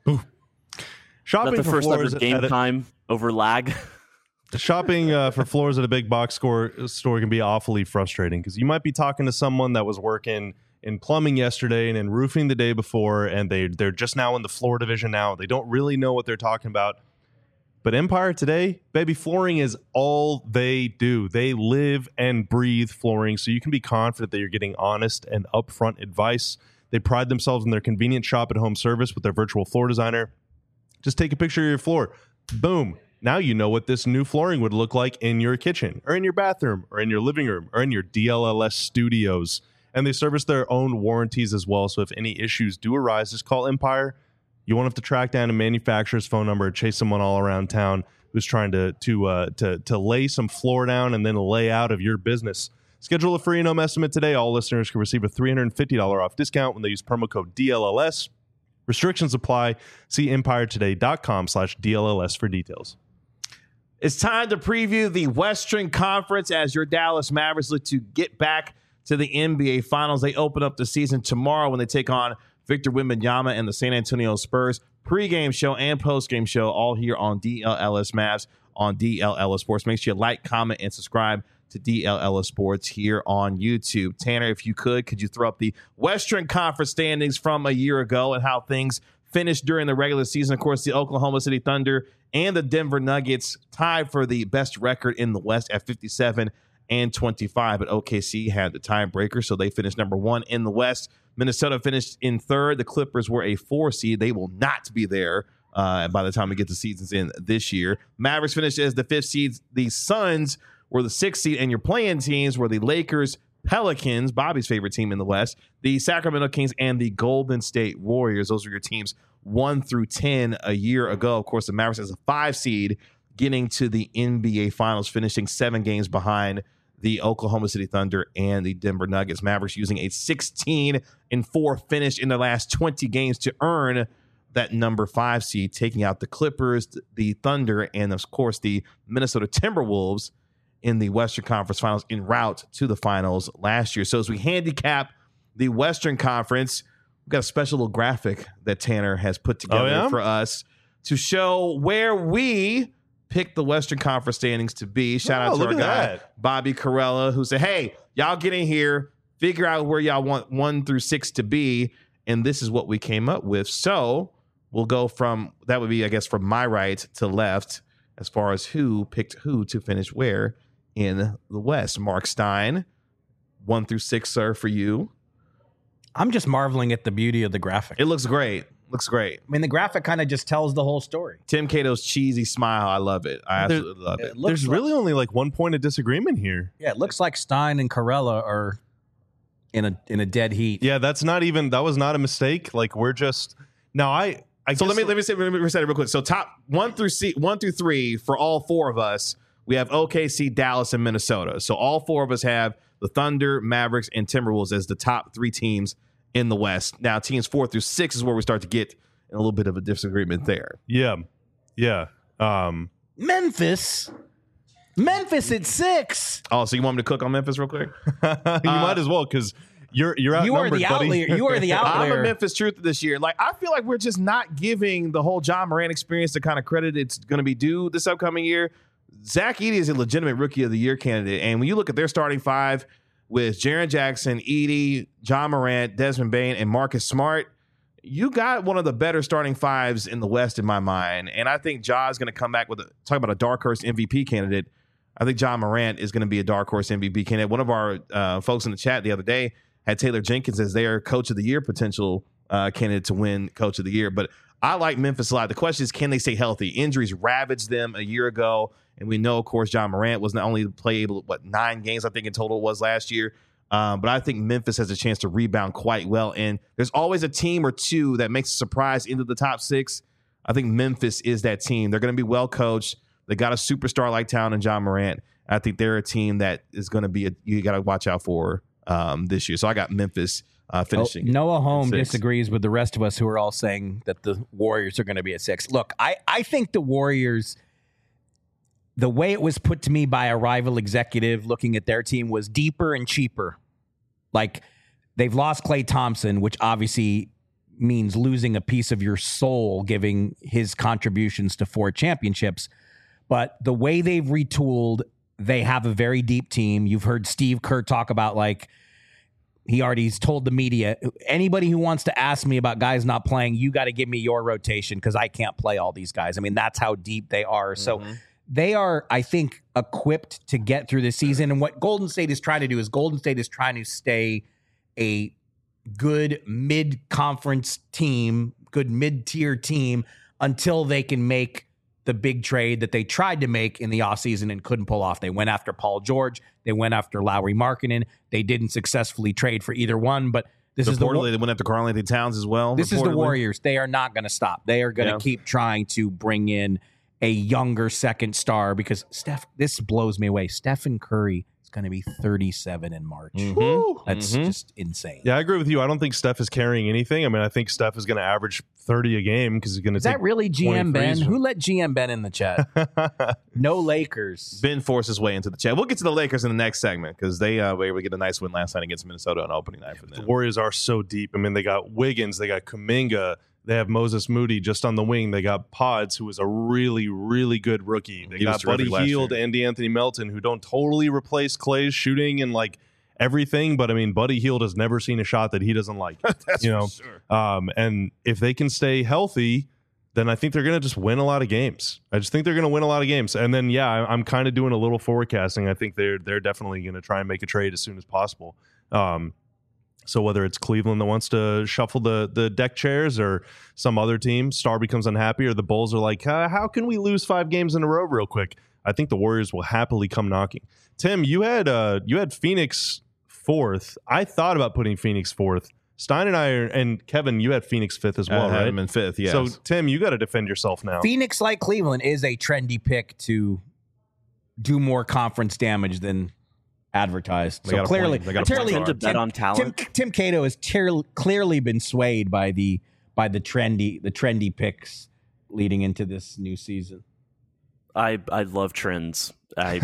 Shopping the for first ever floors game time over lag. Shopping for floors at a big box store can be awfully frustrating, because you might be talking to someone that was working in plumbing yesterday and in roofing the day before, and they're just now in the floor division now. They don't really know what they're talking about. But Empire today, baby, flooring is all they do. They live and breathe flooring, so you can be confident that you're getting honest and upfront advice. They pride themselves in their convenient shop-at-home service with their virtual floor designer. Just take a picture of your floor. Boom. Now you know what this new flooring would look like in your kitchen or in your bathroom or in your living room or in your DLLS studios. And they service their own warranties as well. So if any issues do arise, just call Empire. You won't have to track down a manufacturer's phone number or chase someone all around town who's trying to lay some floor down and then lay out of your business. Schedule a free and home estimate today. All listeners can receive a $350 off discount when they use promo code DLLS. Restrictions apply. See empiretoday.com/DLLS for details. It's time to preview the Western Conference as your Dallas Mavericks look to get back to the NBA Finals. They open up the season tomorrow when they take on Victor Wembanyama and the San Antonio Spurs. Pre-game show and post-game show all here on DLLS Mavs on DLLS Sports. Make sure you like, comment, and subscribe to DLLS Sports here on YouTube. Tanner, if you could you throw up the Western Conference standings from a year ago and how things finished during the regular season? Of course, the Oklahoma City Thunder and the Denver Nuggets tied for the best record in the West at 57-25, but OKC had the tiebreaker, so they finished number one in the West. Minnesota finished in third. The Clippers were a 4 seed. They will not be there by the time we get the seasons in this year. Mavericks finished as the 5th seed. The Suns were the 6th seed, and your playing teams were the Lakers, Pelicans, Bobby's favorite team in the West, the Sacramento Kings, and the Golden State Warriors. Those are your teams 1 through 10 a year ago. Of course, the Mavericks as a 5 seed getting to the NBA Finals, finishing 7 games behind the Oklahoma City Thunder and the Denver Nuggets. Mavericks using a 16-4 finish in the last 20 games to earn that number 5 seed, taking out the Clippers, the Thunder, and of course the Minnesota Timberwolves in the Western Conference Finals en route to the finals last year. So as we handicap the Western Conference, we've got a special little graphic that Tanner has put together for us to show where we picked the Western Conference standings to be. Shout out to our guy, Bobby Carella, who said, hey, y'all get in here, figure out where y'all want 1 through 6 to be, and this is what we came up with. So we'll go from, that would be, I guess, from my right to left as far as who picked who to finish where in the West. Mark Stein, 1 through 6, sir, for you. I'm just marveling at the beauty of the graphic. It looks great. Looks great. I mean, the graphic kind of just tells the whole story. Tim Cato's cheesy smile. I love it. I absolutely love it. There's really only like 1 point of disagreement here. Yeah, it looks like Stein and Carella are in a dead heat. Yeah, that was not a mistake. Like, we're just now I so let me reset it real quick. So top 1 through 3 for all 4 of us. We have OKC, Dallas, and Minnesota. So all 4 of us have the Thunder, Mavericks, and Timberwolves as the top 3 teams in the West. Now, teams 4 through 6 is where we start to get in a little bit of a disagreement there. Yeah. Memphis Memphis at 6. Oh, so you want me to cook on Memphis real quick? You might as well, because you're outnumbered, You are the buddy. outlier. You are the I'm outlier. a Memphis Truth this year. Like, I feel like we're just not giving the whole John Morant experience the kind of credit it's going to be due this upcoming year. Zach Edey is a legitimate Rookie of the Year candidate. And when you look at their starting five with Jaren Jackson, Edey, John Morant, Desmond Bane, and Marcus Smart, you got one of the better starting fives in the West in my mind. And I think Ja's going to come back with talk about a dark horse MVP candidate. I think John Morant is going to be a dark horse MVP candidate. One of our folks in the chat the other day had Taylor Jenkins as their Coach of the Year potential candidate to win Coach of the Year. But I like Memphis a lot. The question is, can they stay healthy? Injuries ravaged them a year ago. And we know, of course, John Morant was not only able, 9 games, I think in total was last year. But I think Memphis has a chance to rebound quite well. And there's always a team or two that makes a surprise into the top 6. I think Memphis is that team. They're going to be well coached. They got a superstar like Town and John Morant. I think they're a team that is going to be you got to watch out for this year. So I got Memphis finishing. Noah Holm 6. disagrees with the rest of us who are all saying that the Warriors are going to be at 6. Look, I think the Warriors, the way it was put to me by a rival executive looking at their team, was deeper and cheaper. Like, they've lost Klay Thompson, which obviously means losing a piece of your soul, giving his contributions to 4 championships. But the way they've retooled, they have a very deep team. You've heard Steve Kerr talk about, like, he already's told the media, anybody who wants to ask me about guys not playing, you got to give me your rotation because I can't play all these guys. I mean, that's how deep they are. So they are, I think, equipped to get through the season. And what Golden State is trying to do is Golden State is trying to stay a good mid-conference team, good mid-tier team, until they can make the big trade that they tried to make in the offseason and couldn't pull off. They went after Paul George. They went after Lauri Markkanen. They didn't successfully trade for either one, but this is reportedly they went after Karl-Anthony Towns as well. This is the Warriors. They are not going to stop. They are going to keep trying to bring in a younger second star because this blows me away. Stephen Curry is going to be 37 in March. That's just insane. Yeah, I agree with you. I don't think Steph is carrying anything. I mean, I think Steph is going to average 30 a game because he's going to Is that really GM Ben? Who let GM Ben in the chat? No Lakers. Ben forced his way into the chat. We'll get to the Lakers in the next segment because they were able to get a nice win last night against Minnesota on opening night for them. The Warriors are so deep. I mean, they got Wiggins, they got Kuminga, they have Moses Moody just on the wing. They got Pods, who is a really, really good rookie. They got Buddy Hield and Anthony Melton, who don't totally replace Clay's shooting and like everything. But I mean, Buddy Hield has never seen a shot that he doesn't like. That's you know, for sure. And if they can stay healthy, then I think they're going to just win a lot of games. I just think they're going to win a lot of games. And then, yeah, I'm kind of doing a little forecasting. I think they're definitely going to try and make a trade as soon as possible. So whether it's Cleveland that wants to shuffle the deck chairs or some other team, Star becomes unhappy, or the Bulls are like, how can we lose 5 games in a row real quick? I think the Warriors will happily come knocking. Tim, you had Phoenix 4th. I thought about putting Phoenix 4th. Stein and I and Kevin, you had Phoenix 5th as well, I had right? them in 5th, yes. So Tim, you got to defend yourself now. Phoenix, like Cleveland, is a trendy pick to do more conference damage than advertised. So clearly, to bet on talent. Tim Cato has clearly been swayed by the trendy picks leading into this new season. I love trends.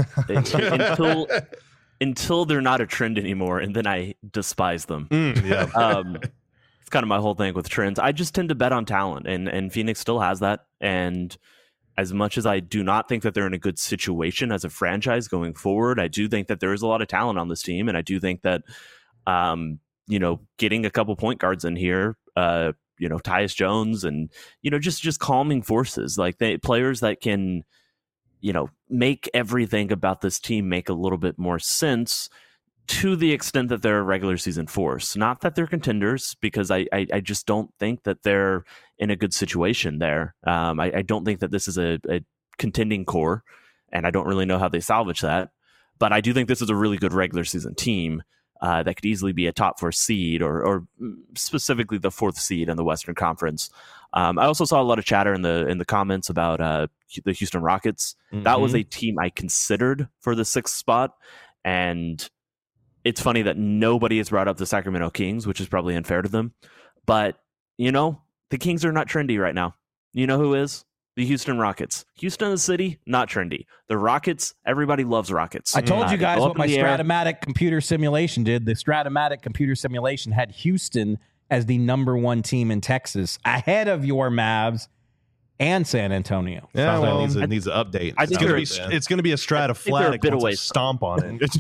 Until they're not a trend anymore, and then I despise them. It's kind of my whole thing with trends. I just tend to bet on talent, and Phoenix still has that. And as much as I do not think that they're in a good situation as a franchise going forward, I do think that there is a lot of talent on this team, and I do think that getting a couple point guards in here, Tyus Jones, and just calming forces, like players that can make everything about this team make a little bit more sense to the extent that they're a regular season force. Not that they're contenders, because I just don't think that they're in a good situation there. I don't think that this is a contending core, and I don't really know how they salvage that. But I do think this is a really good regular season team that could easily be a top 4 seed or specifically the 4th seed in the Western Conference. I also saw a lot of chatter in the comments about the Houston Rockets. Mm-hmm. That was a team I considered for the 6th spot, and it's funny that nobody has brought up the Sacramento Kings, which is probably unfair to them. But, the Kings are not trendy right now. You know who is? The Houston Rockets. Houston, the city, not trendy. The Rockets, everybody loves Rockets. I told you guys what my Stratomatic Stratomatic computer simulation did. The Stratomatic computer simulation had Houston as the #1 team in Texas, ahead of your Mavs and San Antonio. Yeah, Sounds like well, it needs an update. It's going to be a Stratoflatic bit once I away. stomp on it.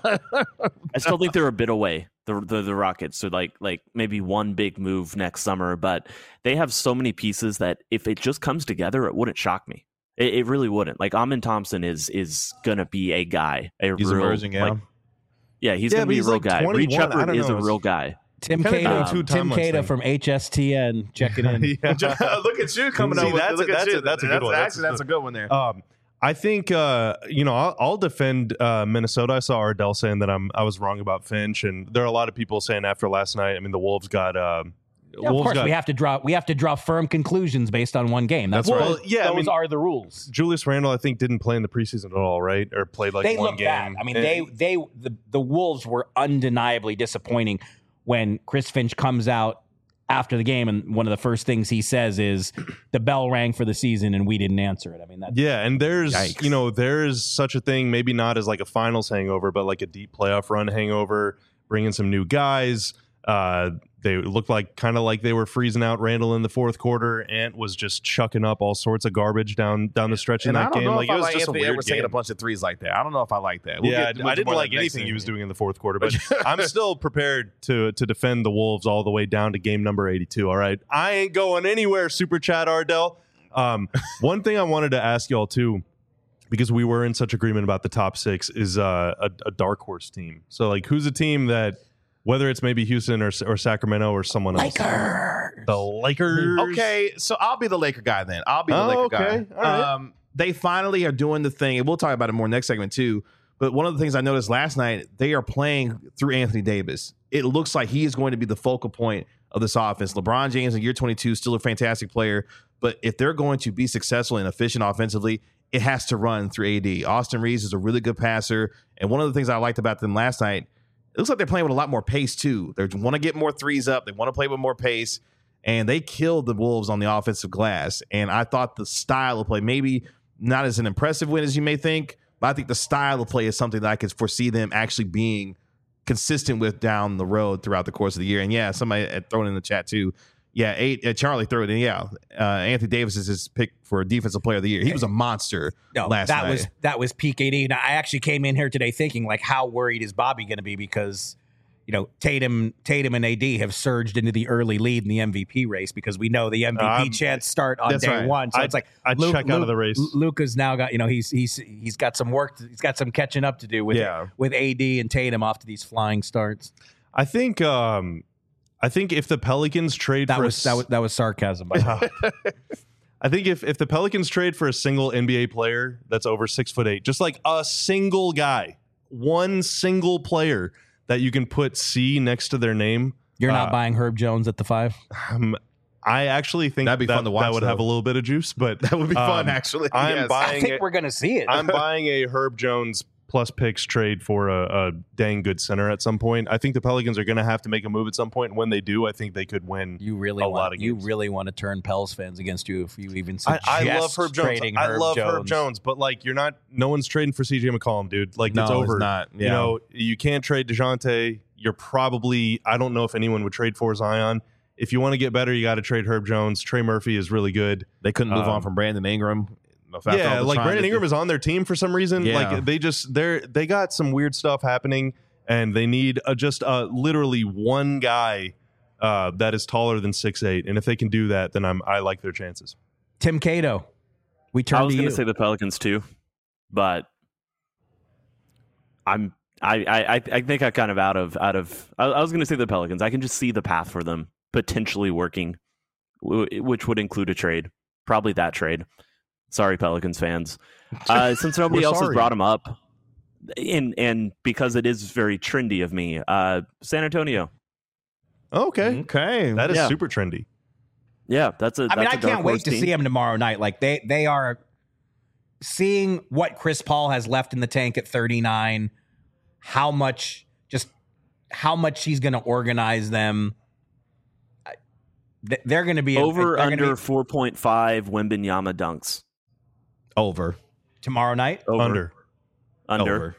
I still think they're a bit away, the Rockets. So like maybe one big move next summer, but they have so many pieces that if it just comes together, it wouldn't shock me. It really wouldn't. Like Amin Thompson is gonna be a guy. He's real, emerging, yeah. He's gonna be a real like guy. 21. Reed I Shepard don't is a know. real guy. Tim Kinda doing Cato, two Tim timelines Cato thing. from HSTN checking in. Look at you coming See, up with that's look a- at that's you. a- that's a good one. Actually, that's a good one there. I think I'll defend Minnesota. I saw Ardell saying that I was wrong about Finch, and there are a lot of people saying after last night. I mean, the Wolves got. Yeah, of course, we have to draw firm conclusions based on one game. That's Well, right. yeah, I Those mean, are the rules. Julius Randle, I think, didn't play in the preseason at all, right? Or played like They one look game. bad. I mean, And- the Wolves were undeniably disappointing when Chris Finch comes out after the game, and one of the first things he says is the bell rang for the season and we didn't answer it. I mean, that's Yeah, and there's Yikes. there's such a thing, maybe not as like a finals hangover, but like a deep playoff run hangover, bringing some new guys. They looked kind of like they were freezing out Randall in the fourth quarter. Ant was just chucking up all sorts of garbage down the stretch in And I that don't game. know Like if it I was like just a Anthony weird Edwards taking a game. bunch of threes like that. I don't know if I like that. We'll Yeah, get I didn't more like next anything he thing. was doing in the fourth quarter, but I'm still prepared to defend the Wolves all the way down to game number 82. All right, I ain't going anywhere. Super Chat Ardell. One thing I wanted to ask y'all too, because we were in such agreement about the top six, is a dark horse team. So like, who's a team that, whether it's maybe Houston or Sacramento or someone else, the Lakers. Okay, so I'll be the Laker guy then. I'll be the Laker guy. okay. All right. They finally are doing the thing, and we'll talk about it more next segment too. But one of the things I noticed last night, they are playing through Anthony Davis. It looks like he is going to be the focal point of this offense. LeBron James in year 22, still a fantastic player, but if they're going to be successful and efficient offensively, it has to run through AD. Austin Reeves is a really good passer, and one of the things I liked about them last night, it looks like they're playing with a lot more pace too. They want to get more threes up. They want to play with more pace, and they killed the Wolves on the offensive glass. And I thought the style of play, maybe not as an impressive win as you may think, but I think the style of play is something that I could foresee them actually being consistent with down the road throughout the course of the year. And yeah, somebody had thrown in the chat too. Yeah, Charlie threw it in. Yeah, Anthony Davis is his pick for Defensive Player of the Year. He was a monster last night. That was peak AD. Now, I actually came in here today thinking, like, how worried is Bobby going to be, because Tatum and AD have surged into the early lead in the MVP race, because we know the MVP chance start on day one. So it's like I'd check out of the race. Luka's now got he's got some work. He's got some catching up to do with AD and Tatum off to these flying starts. I think if the Pelicans trade that was sarcasm. By the way. I think if the Pelicans trade for a single NBA player that's over 6'8", just like a single guy, one single player that you can put C next to their name, you're not buying Herb Jones at the 5. I actually think that'd be fun to watch. That would have a little bit of juice, but that would be fun. Actually, I think we're going to see it. I'm buying a Herb Jones plus picks trade for a dang good center at some point. I think the Pelicans are going to have to make a move at some point, and when they do, I think they could win lot of games. You really want to turn Pels fans against you if you even suggest I love Herb Jones. Herb Jones, but like no one's trading for CJ McCollum, dude. Like it's over. It's not. Yeah. You can't trade DeJounte. You're probably, I don't know if anyone would trade for Zion. If you want to get better, you got to trade Herb Jones. Trey Murphy is really good. They couldn't move on from Brandon Ingram. Yeah, like Brandon Ingram is on their team for some reason. Yeah. Like they got some weird stuff happening, and they need just literally one guy that is taller than 6'8", and if they can do that, then I like their chances. Tim Cato, we turn to you. I was going to say the Pelicans too, but I think I kind of out of. I was going to say the Pelicans. I can just see the path for them potentially working, which would include a trade, probably that trade. Sorry, Pelicans fans. Since nobody else has brought him up, and because it is very trendy of me, San Antonio. Okay, that is super trendy. Yeah, I can't wait to see him tomorrow night. Like they are seeing what Chris Paul has left in the tank at 39. How much he's going to organize them. they're going to be Over under 4.5 Wembanyama dunks. Over. Tomorrow night? Under. Under.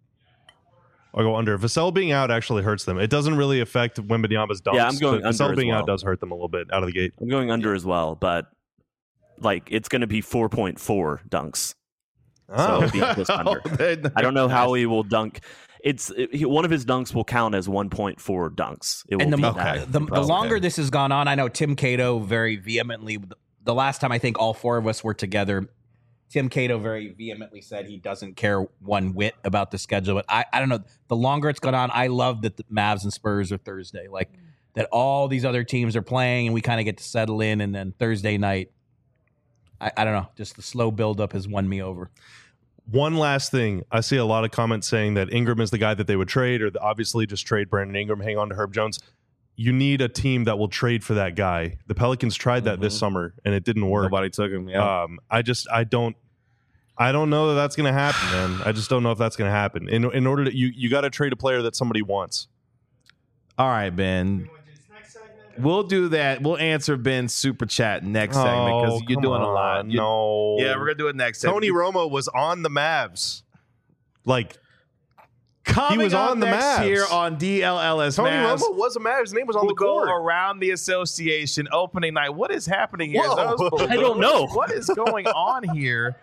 I'll go under. Vassell being out actually hurts them. It doesn't really affect Wembanyama's dunks. Yeah, I'm going but under Vassell as being well. out does hurt them a little bit out of the gate. I'm going under as well, but like it's going to be 4.4 dunks. So it'll be just under. I don't know how he will dunk. One of his dunks will count as 1.4 dunks. It will And be the longer this has gone on, I know Tim Cato very vehemently, the last time I think all four of us were together, Tim Cato very vehemently said he doesn't care one whit about the schedule. But I don't know. The longer it's gone on, I love that the Mavs and Spurs are Thursday. Like that all these other teams are playing and we kind of get to settle in. And then Thursday night, I don't know. Just the slow buildup has won me over. One last thing. I see a lot of comments saying that Ingram is the guy that they would trade, or obviously just trade Brandon Ingram, hang on to Herb Jones. You need a team that will trade for that guy. The Pelicans tried that this summer, and it didn't work. Nobody took him. Yeah. I don't know that that's going to happen, man. I just don't know if that's going to happen. In order to you got to trade a player that somebody wants. All right, Ben. We'll do that. We'll answer Ben's super chat next segment because you're doing a lot. No. Yeah, we're gonna do it next segment. Tony Romo was on the Mavs. Like Coming he was up on the next Mavs. year on DLLS Tony Mavs. Romo was a Mavs. His name was on We'll the court. go around the association opening night. What is happening here? Whoa. I don't know. What is going on here?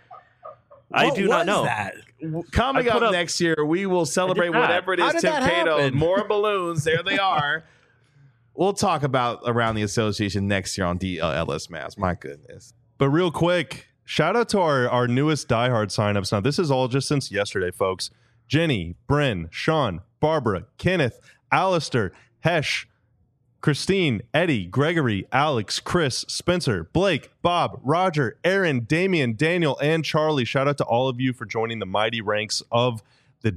I do not know. That? Coming I put up up- next year, we will celebrate I did not. whatever it How is did Tim that Cato. happen? More balloons. There they are. We'll talk about around the association next year on DLLS Mavs. My goodness. But real quick, shout out to our newest diehard signups. Now, this is all just since yesterday, folks. Jenny, Bryn, Sean, Barbara, Kenneth, Alistair, Hesh, Christine, Eddie, Gregory, Alex, Chris, Spencer, Blake, Bob, Roger, Aaron, Damian, Daniel, and Charlie. Shout out to all of you for joining the mighty ranks of the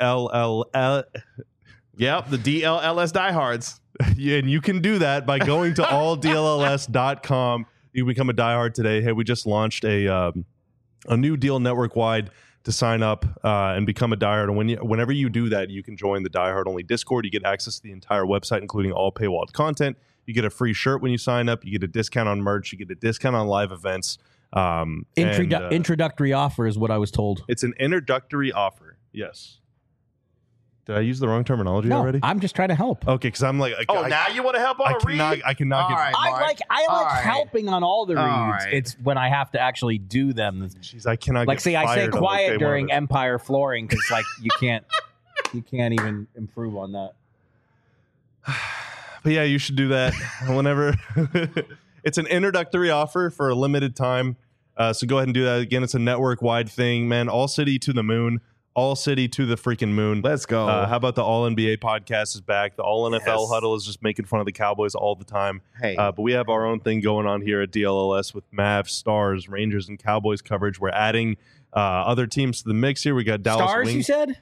DLL. Yep, the DLLS diehards. Yeah, and you can do that by going to alldlls.com. You can become a diehard today. Hey, we just launched a new deal network-wide to sign up and become a diehard. And whenever you do that, you can join the diehard-only Discord. You get access to the entire website, including all paywalled content. You get a free shirt when you sign up. You get a discount on merch. You get a discount on live events. Introductory offer is what I was told. It's an introductory offer. Yes. Did I use the wrong terminology No, already? I'm just trying to help. Okay, because I'm like, Now you want to help on a read? I cannot get. All right. I Mark. like All right. helping on all the reads. All right. It's when I have to actually do them. Jeez, I cannot. Like, get see, I say fired on quiet day during one of Empire flooring because, like, you can't even improve on that. it. But yeah, you should do that whenever. It's an introductory offer for a limited time, so go ahead and do that. Again, it's a network-wide thing, man. All city to the moon. All city to the freaking moon. Let's go. How about the All NBA podcast is back? The All NFL Yes. huddle is just making fun of the Cowboys all the time. Hey. But we have our own thing going on here at DLLS with Mavs, Stars, Rangers, and Cowboys coverage. We're adding other teams to the mix here. We got Dallas Stars, Wings. you said?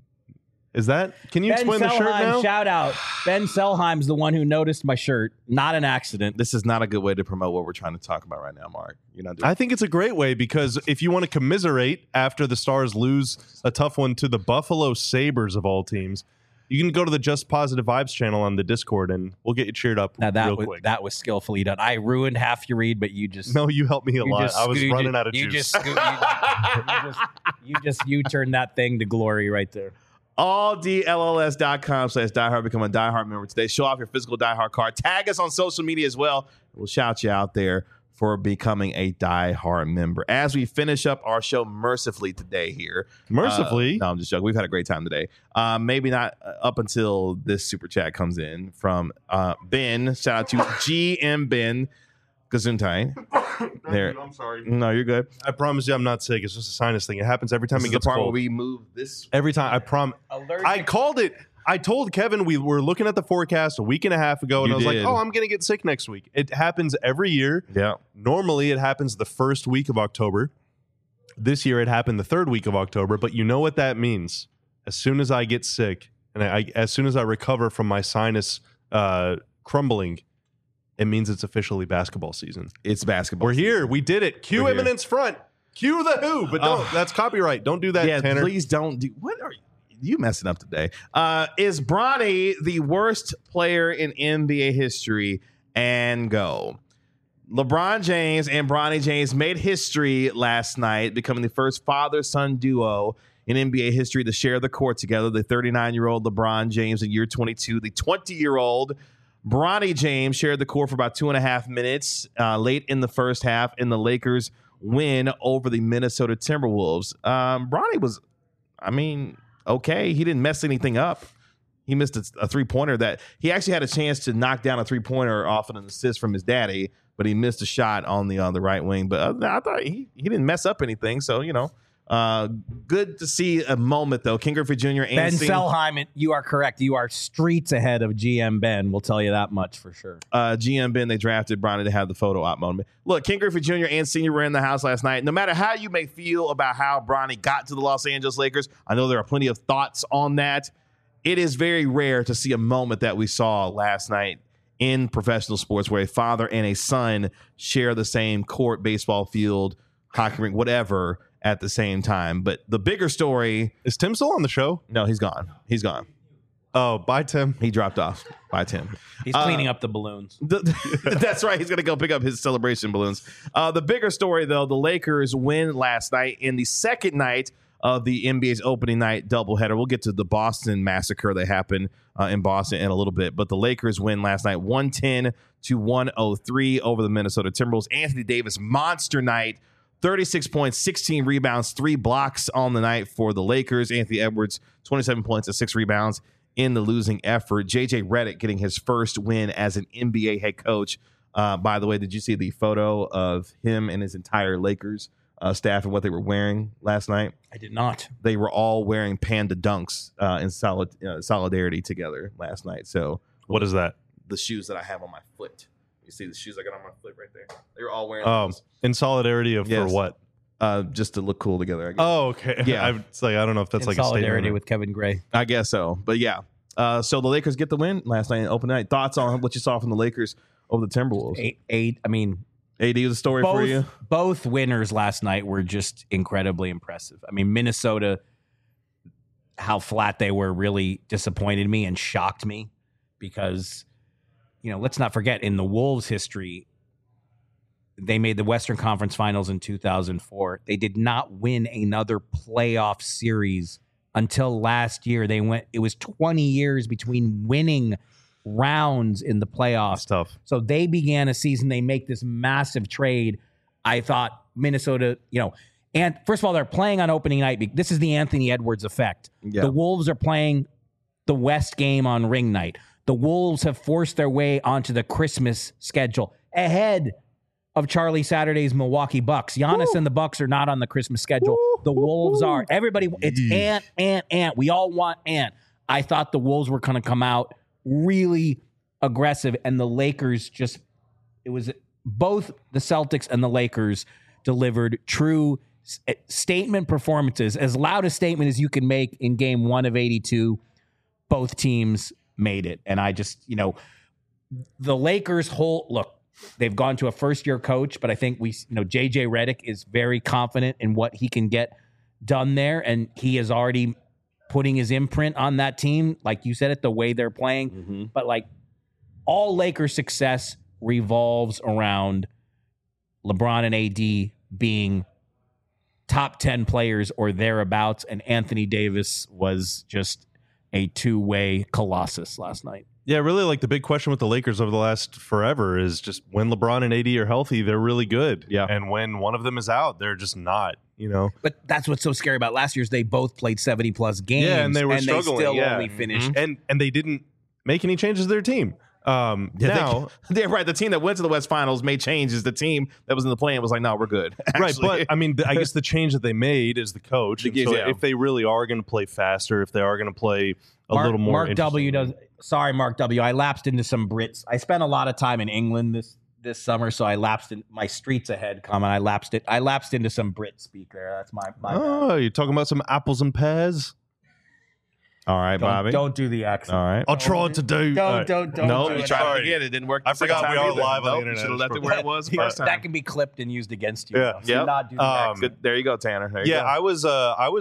Is that? Can you explain the shirt now? Shout out. Ben Selheim's the one who noticed my shirt. Not an accident. This is not a good way to promote what we're trying to talk about right now, Mark. You're not doing I think it's a great way because if you want to commiserate after the Stars lose a tough one to the Buffalo Sabres of all teams, you can go to the Just Positive Vibes channel on the Discord and we'll get you cheered up Now, real quick. that was skillfully done. I ruined half your read, but you just No, you helped me a you lot. just I was scoot- running out of you juice. You turned that thing to glory right there. alldlls.com/diehard. Become a diehard member today. Show off your physical diehard card. Tag us on social media as well. We'll shout you out there for becoming a diehard member. As we finish up our show mercifully today here. Mercifully? No, I'm just joking. We've had a great time today. Maybe not up until this super chat comes in from Ben. Shout out to GM Ben Gesundheit. There. I'm sorry. No, you're good. I promise you I'm not sick. It's just a sinus thing. It happens every time This it is the gets part cold. where we move this. Every time. I promise. I called it. I told Kevin we were looking at the forecast a week and a half ago, and You I was did. like, oh, I'm going to get sick next week. It happens every year. Yeah. Normally, it happens the first week of October. This year, it happened the third week of October. But you know what that means? As soon as I get sick, and as soon as I recover from my sinus crumbling, it means it's officially basketball season. It's basketball. We're here. We did it. Cue We're here. Eminence Front. Cue the Who. But don't. That's copyright. Don't do that, Yeah, Tanner. please don't do. What are you messing up today? Is Bronny the worst player in NBA history? and go. LeBron James and Bronny James made history last night, becoming the first father-son duo in NBA history to share the court together. The 39-year-old LeBron James in year 22, the 20-year-old Bronny James shared the court for about 2.5 minutes late in the first half, and the Lakers win over the Minnesota Timberwolves. Bronny was, okay. He didn't mess anything up. He missed a three-pointer that he actually had a chance to knock down a three-pointer off an assist from his daddy, but he missed a shot on the right wing. But I thought he didn't mess up anything. So, good to see a moment, though. King Griffey Jr. and Ben Selheim, you are correct. You are streets ahead of GM Ben. We'll tell you that much for sure. GM Ben, they drafted Bronny to have the photo op moment. Look, King Griffey Jr. and Senior were in the house last night. No matter how you may feel about how Bronny got to the Los Angeles Lakers, I know there are plenty of thoughts on that. It is very rare to see a moment that we saw last night in professional sports where a father and a son share the same court, baseball field, hockey rink, whatever, at the same time. But the bigger story... Is Tim still on the show? No, he's gone. He's gone. Oh, bye, Tim. He dropped off. Bye, Tim. He's cleaning up the balloons. That's right. He's going to go pick up his celebration balloons. The bigger story, though, the Lakers win last night in the second night of the NBA's opening night doubleheader. We'll get to the Boston massacre that happened in Boston in a little bit. But the Lakers win last night 110-103 over the Minnesota Timberwolves. Anthony Davis, monster night. 36 points, 16 rebounds, 3 blocks on the night for the Lakers. Anthony Edwards, 27 points and 6 rebounds in the losing effort. JJ Redick getting his first win as an NBA head coach. By the way, did you see the photo of him and his entire Lakers staff and what they were wearing last night? I did not. They were all wearing Panda Dunks in solidarity together last night. So what is that? The shoes that I have on my foot. You see the shoes I got on my foot right there? They were all wearing those. In solidarity of Yes. for what? Just to look cool together, I guess. Oh, okay. Yeah. It's like, I don't know if that's In like a solidarity statement. with Kevin Gray. I guess so. But yeah. So the Lakers get the win last night in open night. Thoughts on what you saw from the Lakers over the Timberwolves? AD was a story for you? Both winners last night were just incredibly impressive. I mean, Minnesota, how flat they were really disappointed me and shocked me because, let's not forget in the Wolves' history, they made the Western Conference Finals in 2004. They did not win another playoff series until last year. It was 20 years between winning rounds in the playoffs. That's tough. So they began a season. They make this massive trade. I thought Minnesota, and first of all, they're playing on opening night. This is the Anthony Edwards effect. Yeah. The Wolves are playing the West game on ring night. The Wolves have forced their way onto the Christmas schedule ahead of Charlie Saturday's Milwaukee Bucks. Giannis and the Bucks are not on the Christmas schedule. The Wolves are. Everybody, it's Ant. We all want Ant. I thought the Wolves were going to come out really aggressive, and the Lakers it was both the Celtics and the Lakers delivered true statement performances, as loud a statement as you can make in game 1 of 82. Both teams made it. And I just, the Lakers they've gone to a first-year coach, but I think JJ Redick is very confident in what he can get done there, and he is already putting his imprint on that team, like you said it, the way they're playing. Mm-hmm. But all Lakers success revolves around LeBron and AD being top 10 players or thereabouts, and Anthony Davis was just a two-way colossus last night. Yeah, really, the big question with the Lakers over the last forever is just when LeBron and AD are healthy, they're really good. Yeah. And when one of them is out, they're just not, But that's what's so scary about last year's. They both played 70-plus games. Yeah, and they were struggling. They still yeah. only finished. And they didn't make any changes to their team. Now, they're right. The team that went to the West Finals made changes. The team that was in the play-in was like, no, we're good. Right, but I guess the change that they made is the coach. If they really are going to play faster, if they are going to play a little more, Mark W does. Sorry, Mark W. I lapsed into some Brits. I spent a lot of time in England this summer, so I lapsed in my streets ahead comment. I lapsed into some Brit speak there. That's my Oh, you're talking about some apples and pears. All right, Bobby. Don't do the accent. All right. I'll try to do. Don't. No, do you it. tried to get it. It didn't work. I forgot we are live on the internet. You should have left it where it was the first time. That can be clipped and used against you. Yeah. So do not do the accent. Good. There you go, Tanner. There you Yeah, go.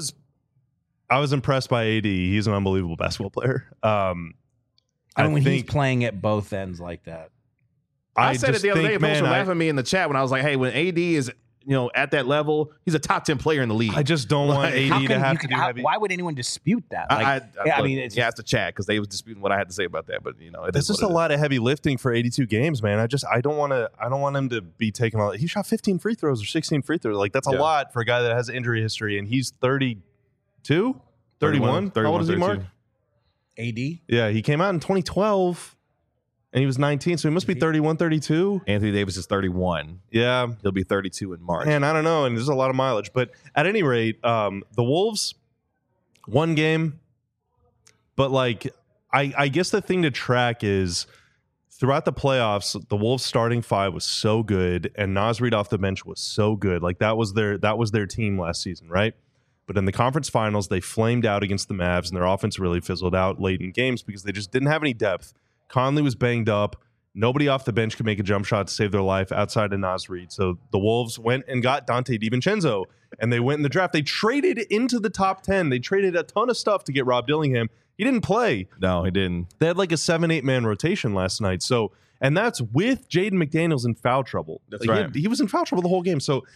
I was impressed by AD. He's an unbelievable basketball player. When he's playing at both ends like that. I said it the other day. Folks were laughing at me in the chat when I was like, "Hey, when AD is at that level, he's a top 10 player in the league." I just don't want AD to have to do heavy. Why would anyone dispute that? It's the chat because they was disputing what I had to say about that. But it's just a lot of heavy lifting for 82 games, man. I don't want him to be taking all. He shot 15 free throws or 16 free throws. Like that's a lot for a guy that has injury history, and he's 32, 31. How old is he, Mark? AD? Yeah, he came out in 2012. And he was 19, so he must be 31, 32. Anthony Davis is 31. Yeah. He'll be 32 in March. And I don't know, and there's a lot of mileage. But at any rate, the Wolves, one game. But, I guess the thing to track is throughout the playoffs, the Wolves starting five was so good, and Naz Reid off the bench was so good. That was their team last season, right? But in the conference finals, they flamed out against the Mavs, and their offense really fizzled out late in games because they just didn't have any depth. Conley was banged up. Nobody off the bench could make a jump shot to save their life outside of Naz Reid. So the Wolves went and got Dante DiVincenzo, and they went in the draft. They traded into the top 10. They traded a ton of stuff to get Rob Dillingham. He didn't play. No, he didn't. They had a 7-8 man rotation last night. So, and that's with Jaden McDaniels in foul trouble. That's right. He was in foul trouble the whole game. So,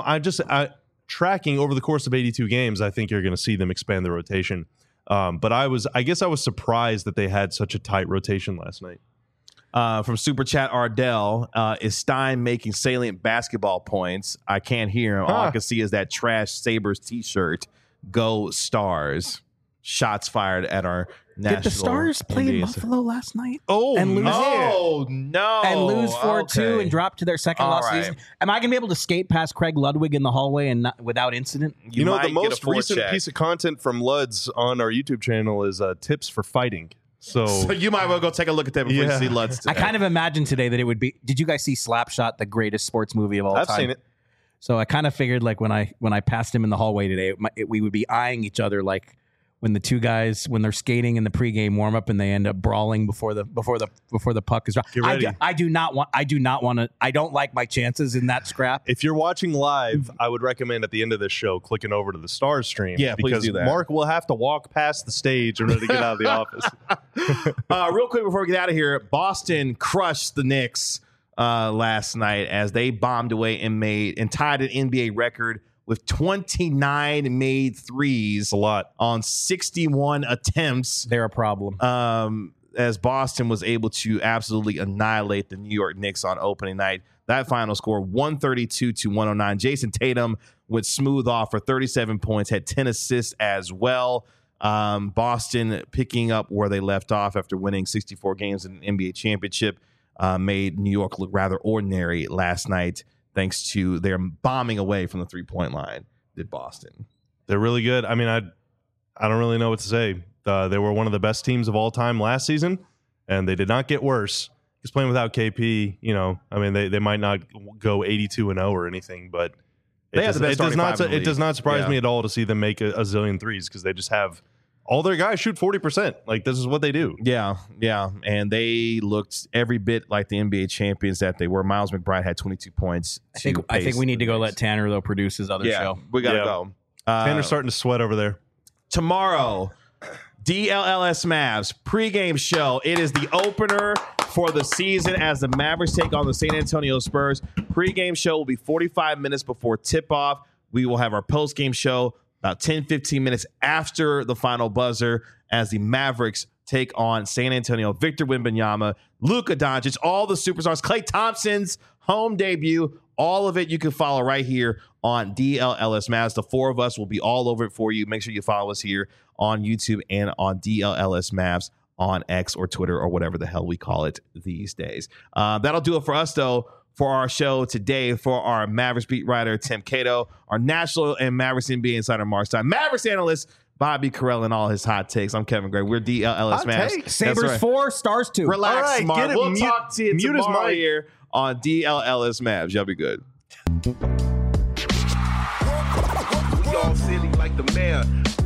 tracking over the course of 82 games, I think you're going to see them expand the rotation. But I guess I was surprised that they had such a tight rotation last night. From Super Chat Ardell, is Stein making salient basketball points? I can't hear him. All I can see is that trash Sabres t-shirt. Go Stars. Shots fired at our national. Did the Stars play in Buffalo last night? Oh, and lose no. And lose 4-2 and drop to their second loss season. Am I going to be able to skate past Craig Ludwig in the hallway and not without incident? You know, the most recent piece of content from Luds on our YouTube channel is tips for fighting. So you might well go take a look at that before you see Luds today. I kind of imagined today that it would be. Did you guys see Slapshot, the greatest sports movie of all time? I've seen it. So I kind of figured when I passed him in the hallway today, we would be eyeing each other like when the two guys when they're skating in the pregame warm up and they end up brawling before the puck is dropped. Get ready. I do not want to. I don't like my chances in that scrap. If you're watching live, I would recommend at the end of this show clicking over to the Stars stream. Yeah, please do that. Mark will have to walk past the stage in order to get out of the office. Real quick before we get out of here, Boston crushed the Knicks last night as they bombed away and tied an NBA record with 29 made threes. A lot. On 61 attempts. They're a problem. As Boston was able to absolutely annihilate the New York Knicks on opening night. That final score, 132-109. Jason Tatum went smooth off for 37 points, had 10 assists as well. Boston picking up where they left off after winning 64 games in an NBA championship, made New York look rather ordinary last night, thanks to their bombing away from the three-point line, did Boston. They're really good. I mean, I don't really know what to say. They were one of the best teams of all time last season, and they did not get worse. Just playing without KP, they might not go 82-0 or anything, but it does not surprise me at all to see them make a zillion threes because they just have all their guys shoot 40%. Like, this is what they do. Yeah. And they looked every bit like the NBA champions that they were. Miles McBride had 22 points. I think we need to go let Tanner, though, produce his other show. We got to go. Tanner's starting to sweat over there. Tomorrow, DLLS Mavs pregame show. It is the opener for the season as the Mavericks take on the San Antonio Spurs. Pregame show will be 45 minutes before tip-off. We will have our postgame show about 10-15 minutes after the final buzzer as the Mavericks take on San Antonio. Victor Wembanyama, Luka Doncic, all the superstars, Klay Thompson's home debut, all of it you can follow right here on DLLS Mavs. The four of us will be all over it for you. Make sure you follow us here on YouTube and on DLLS Mavs on X or Twitter or whatever the hell we call it these days. That'll do it for us, though, for our show today. For our Mavericks beat writer, Tim Cato, our national and Mavericks NBA insider, Mark Stein, Mavericks analyst, Bobby Carell, and all his hot takes. I'm Kevin Gray. We're DLLS Mavs. Sabres 4, Stars 2. Relax, right, Mark. We'll talk to you tomorrow mic here on DLLS Mavs. Y'all be good. We all silly like the mayor.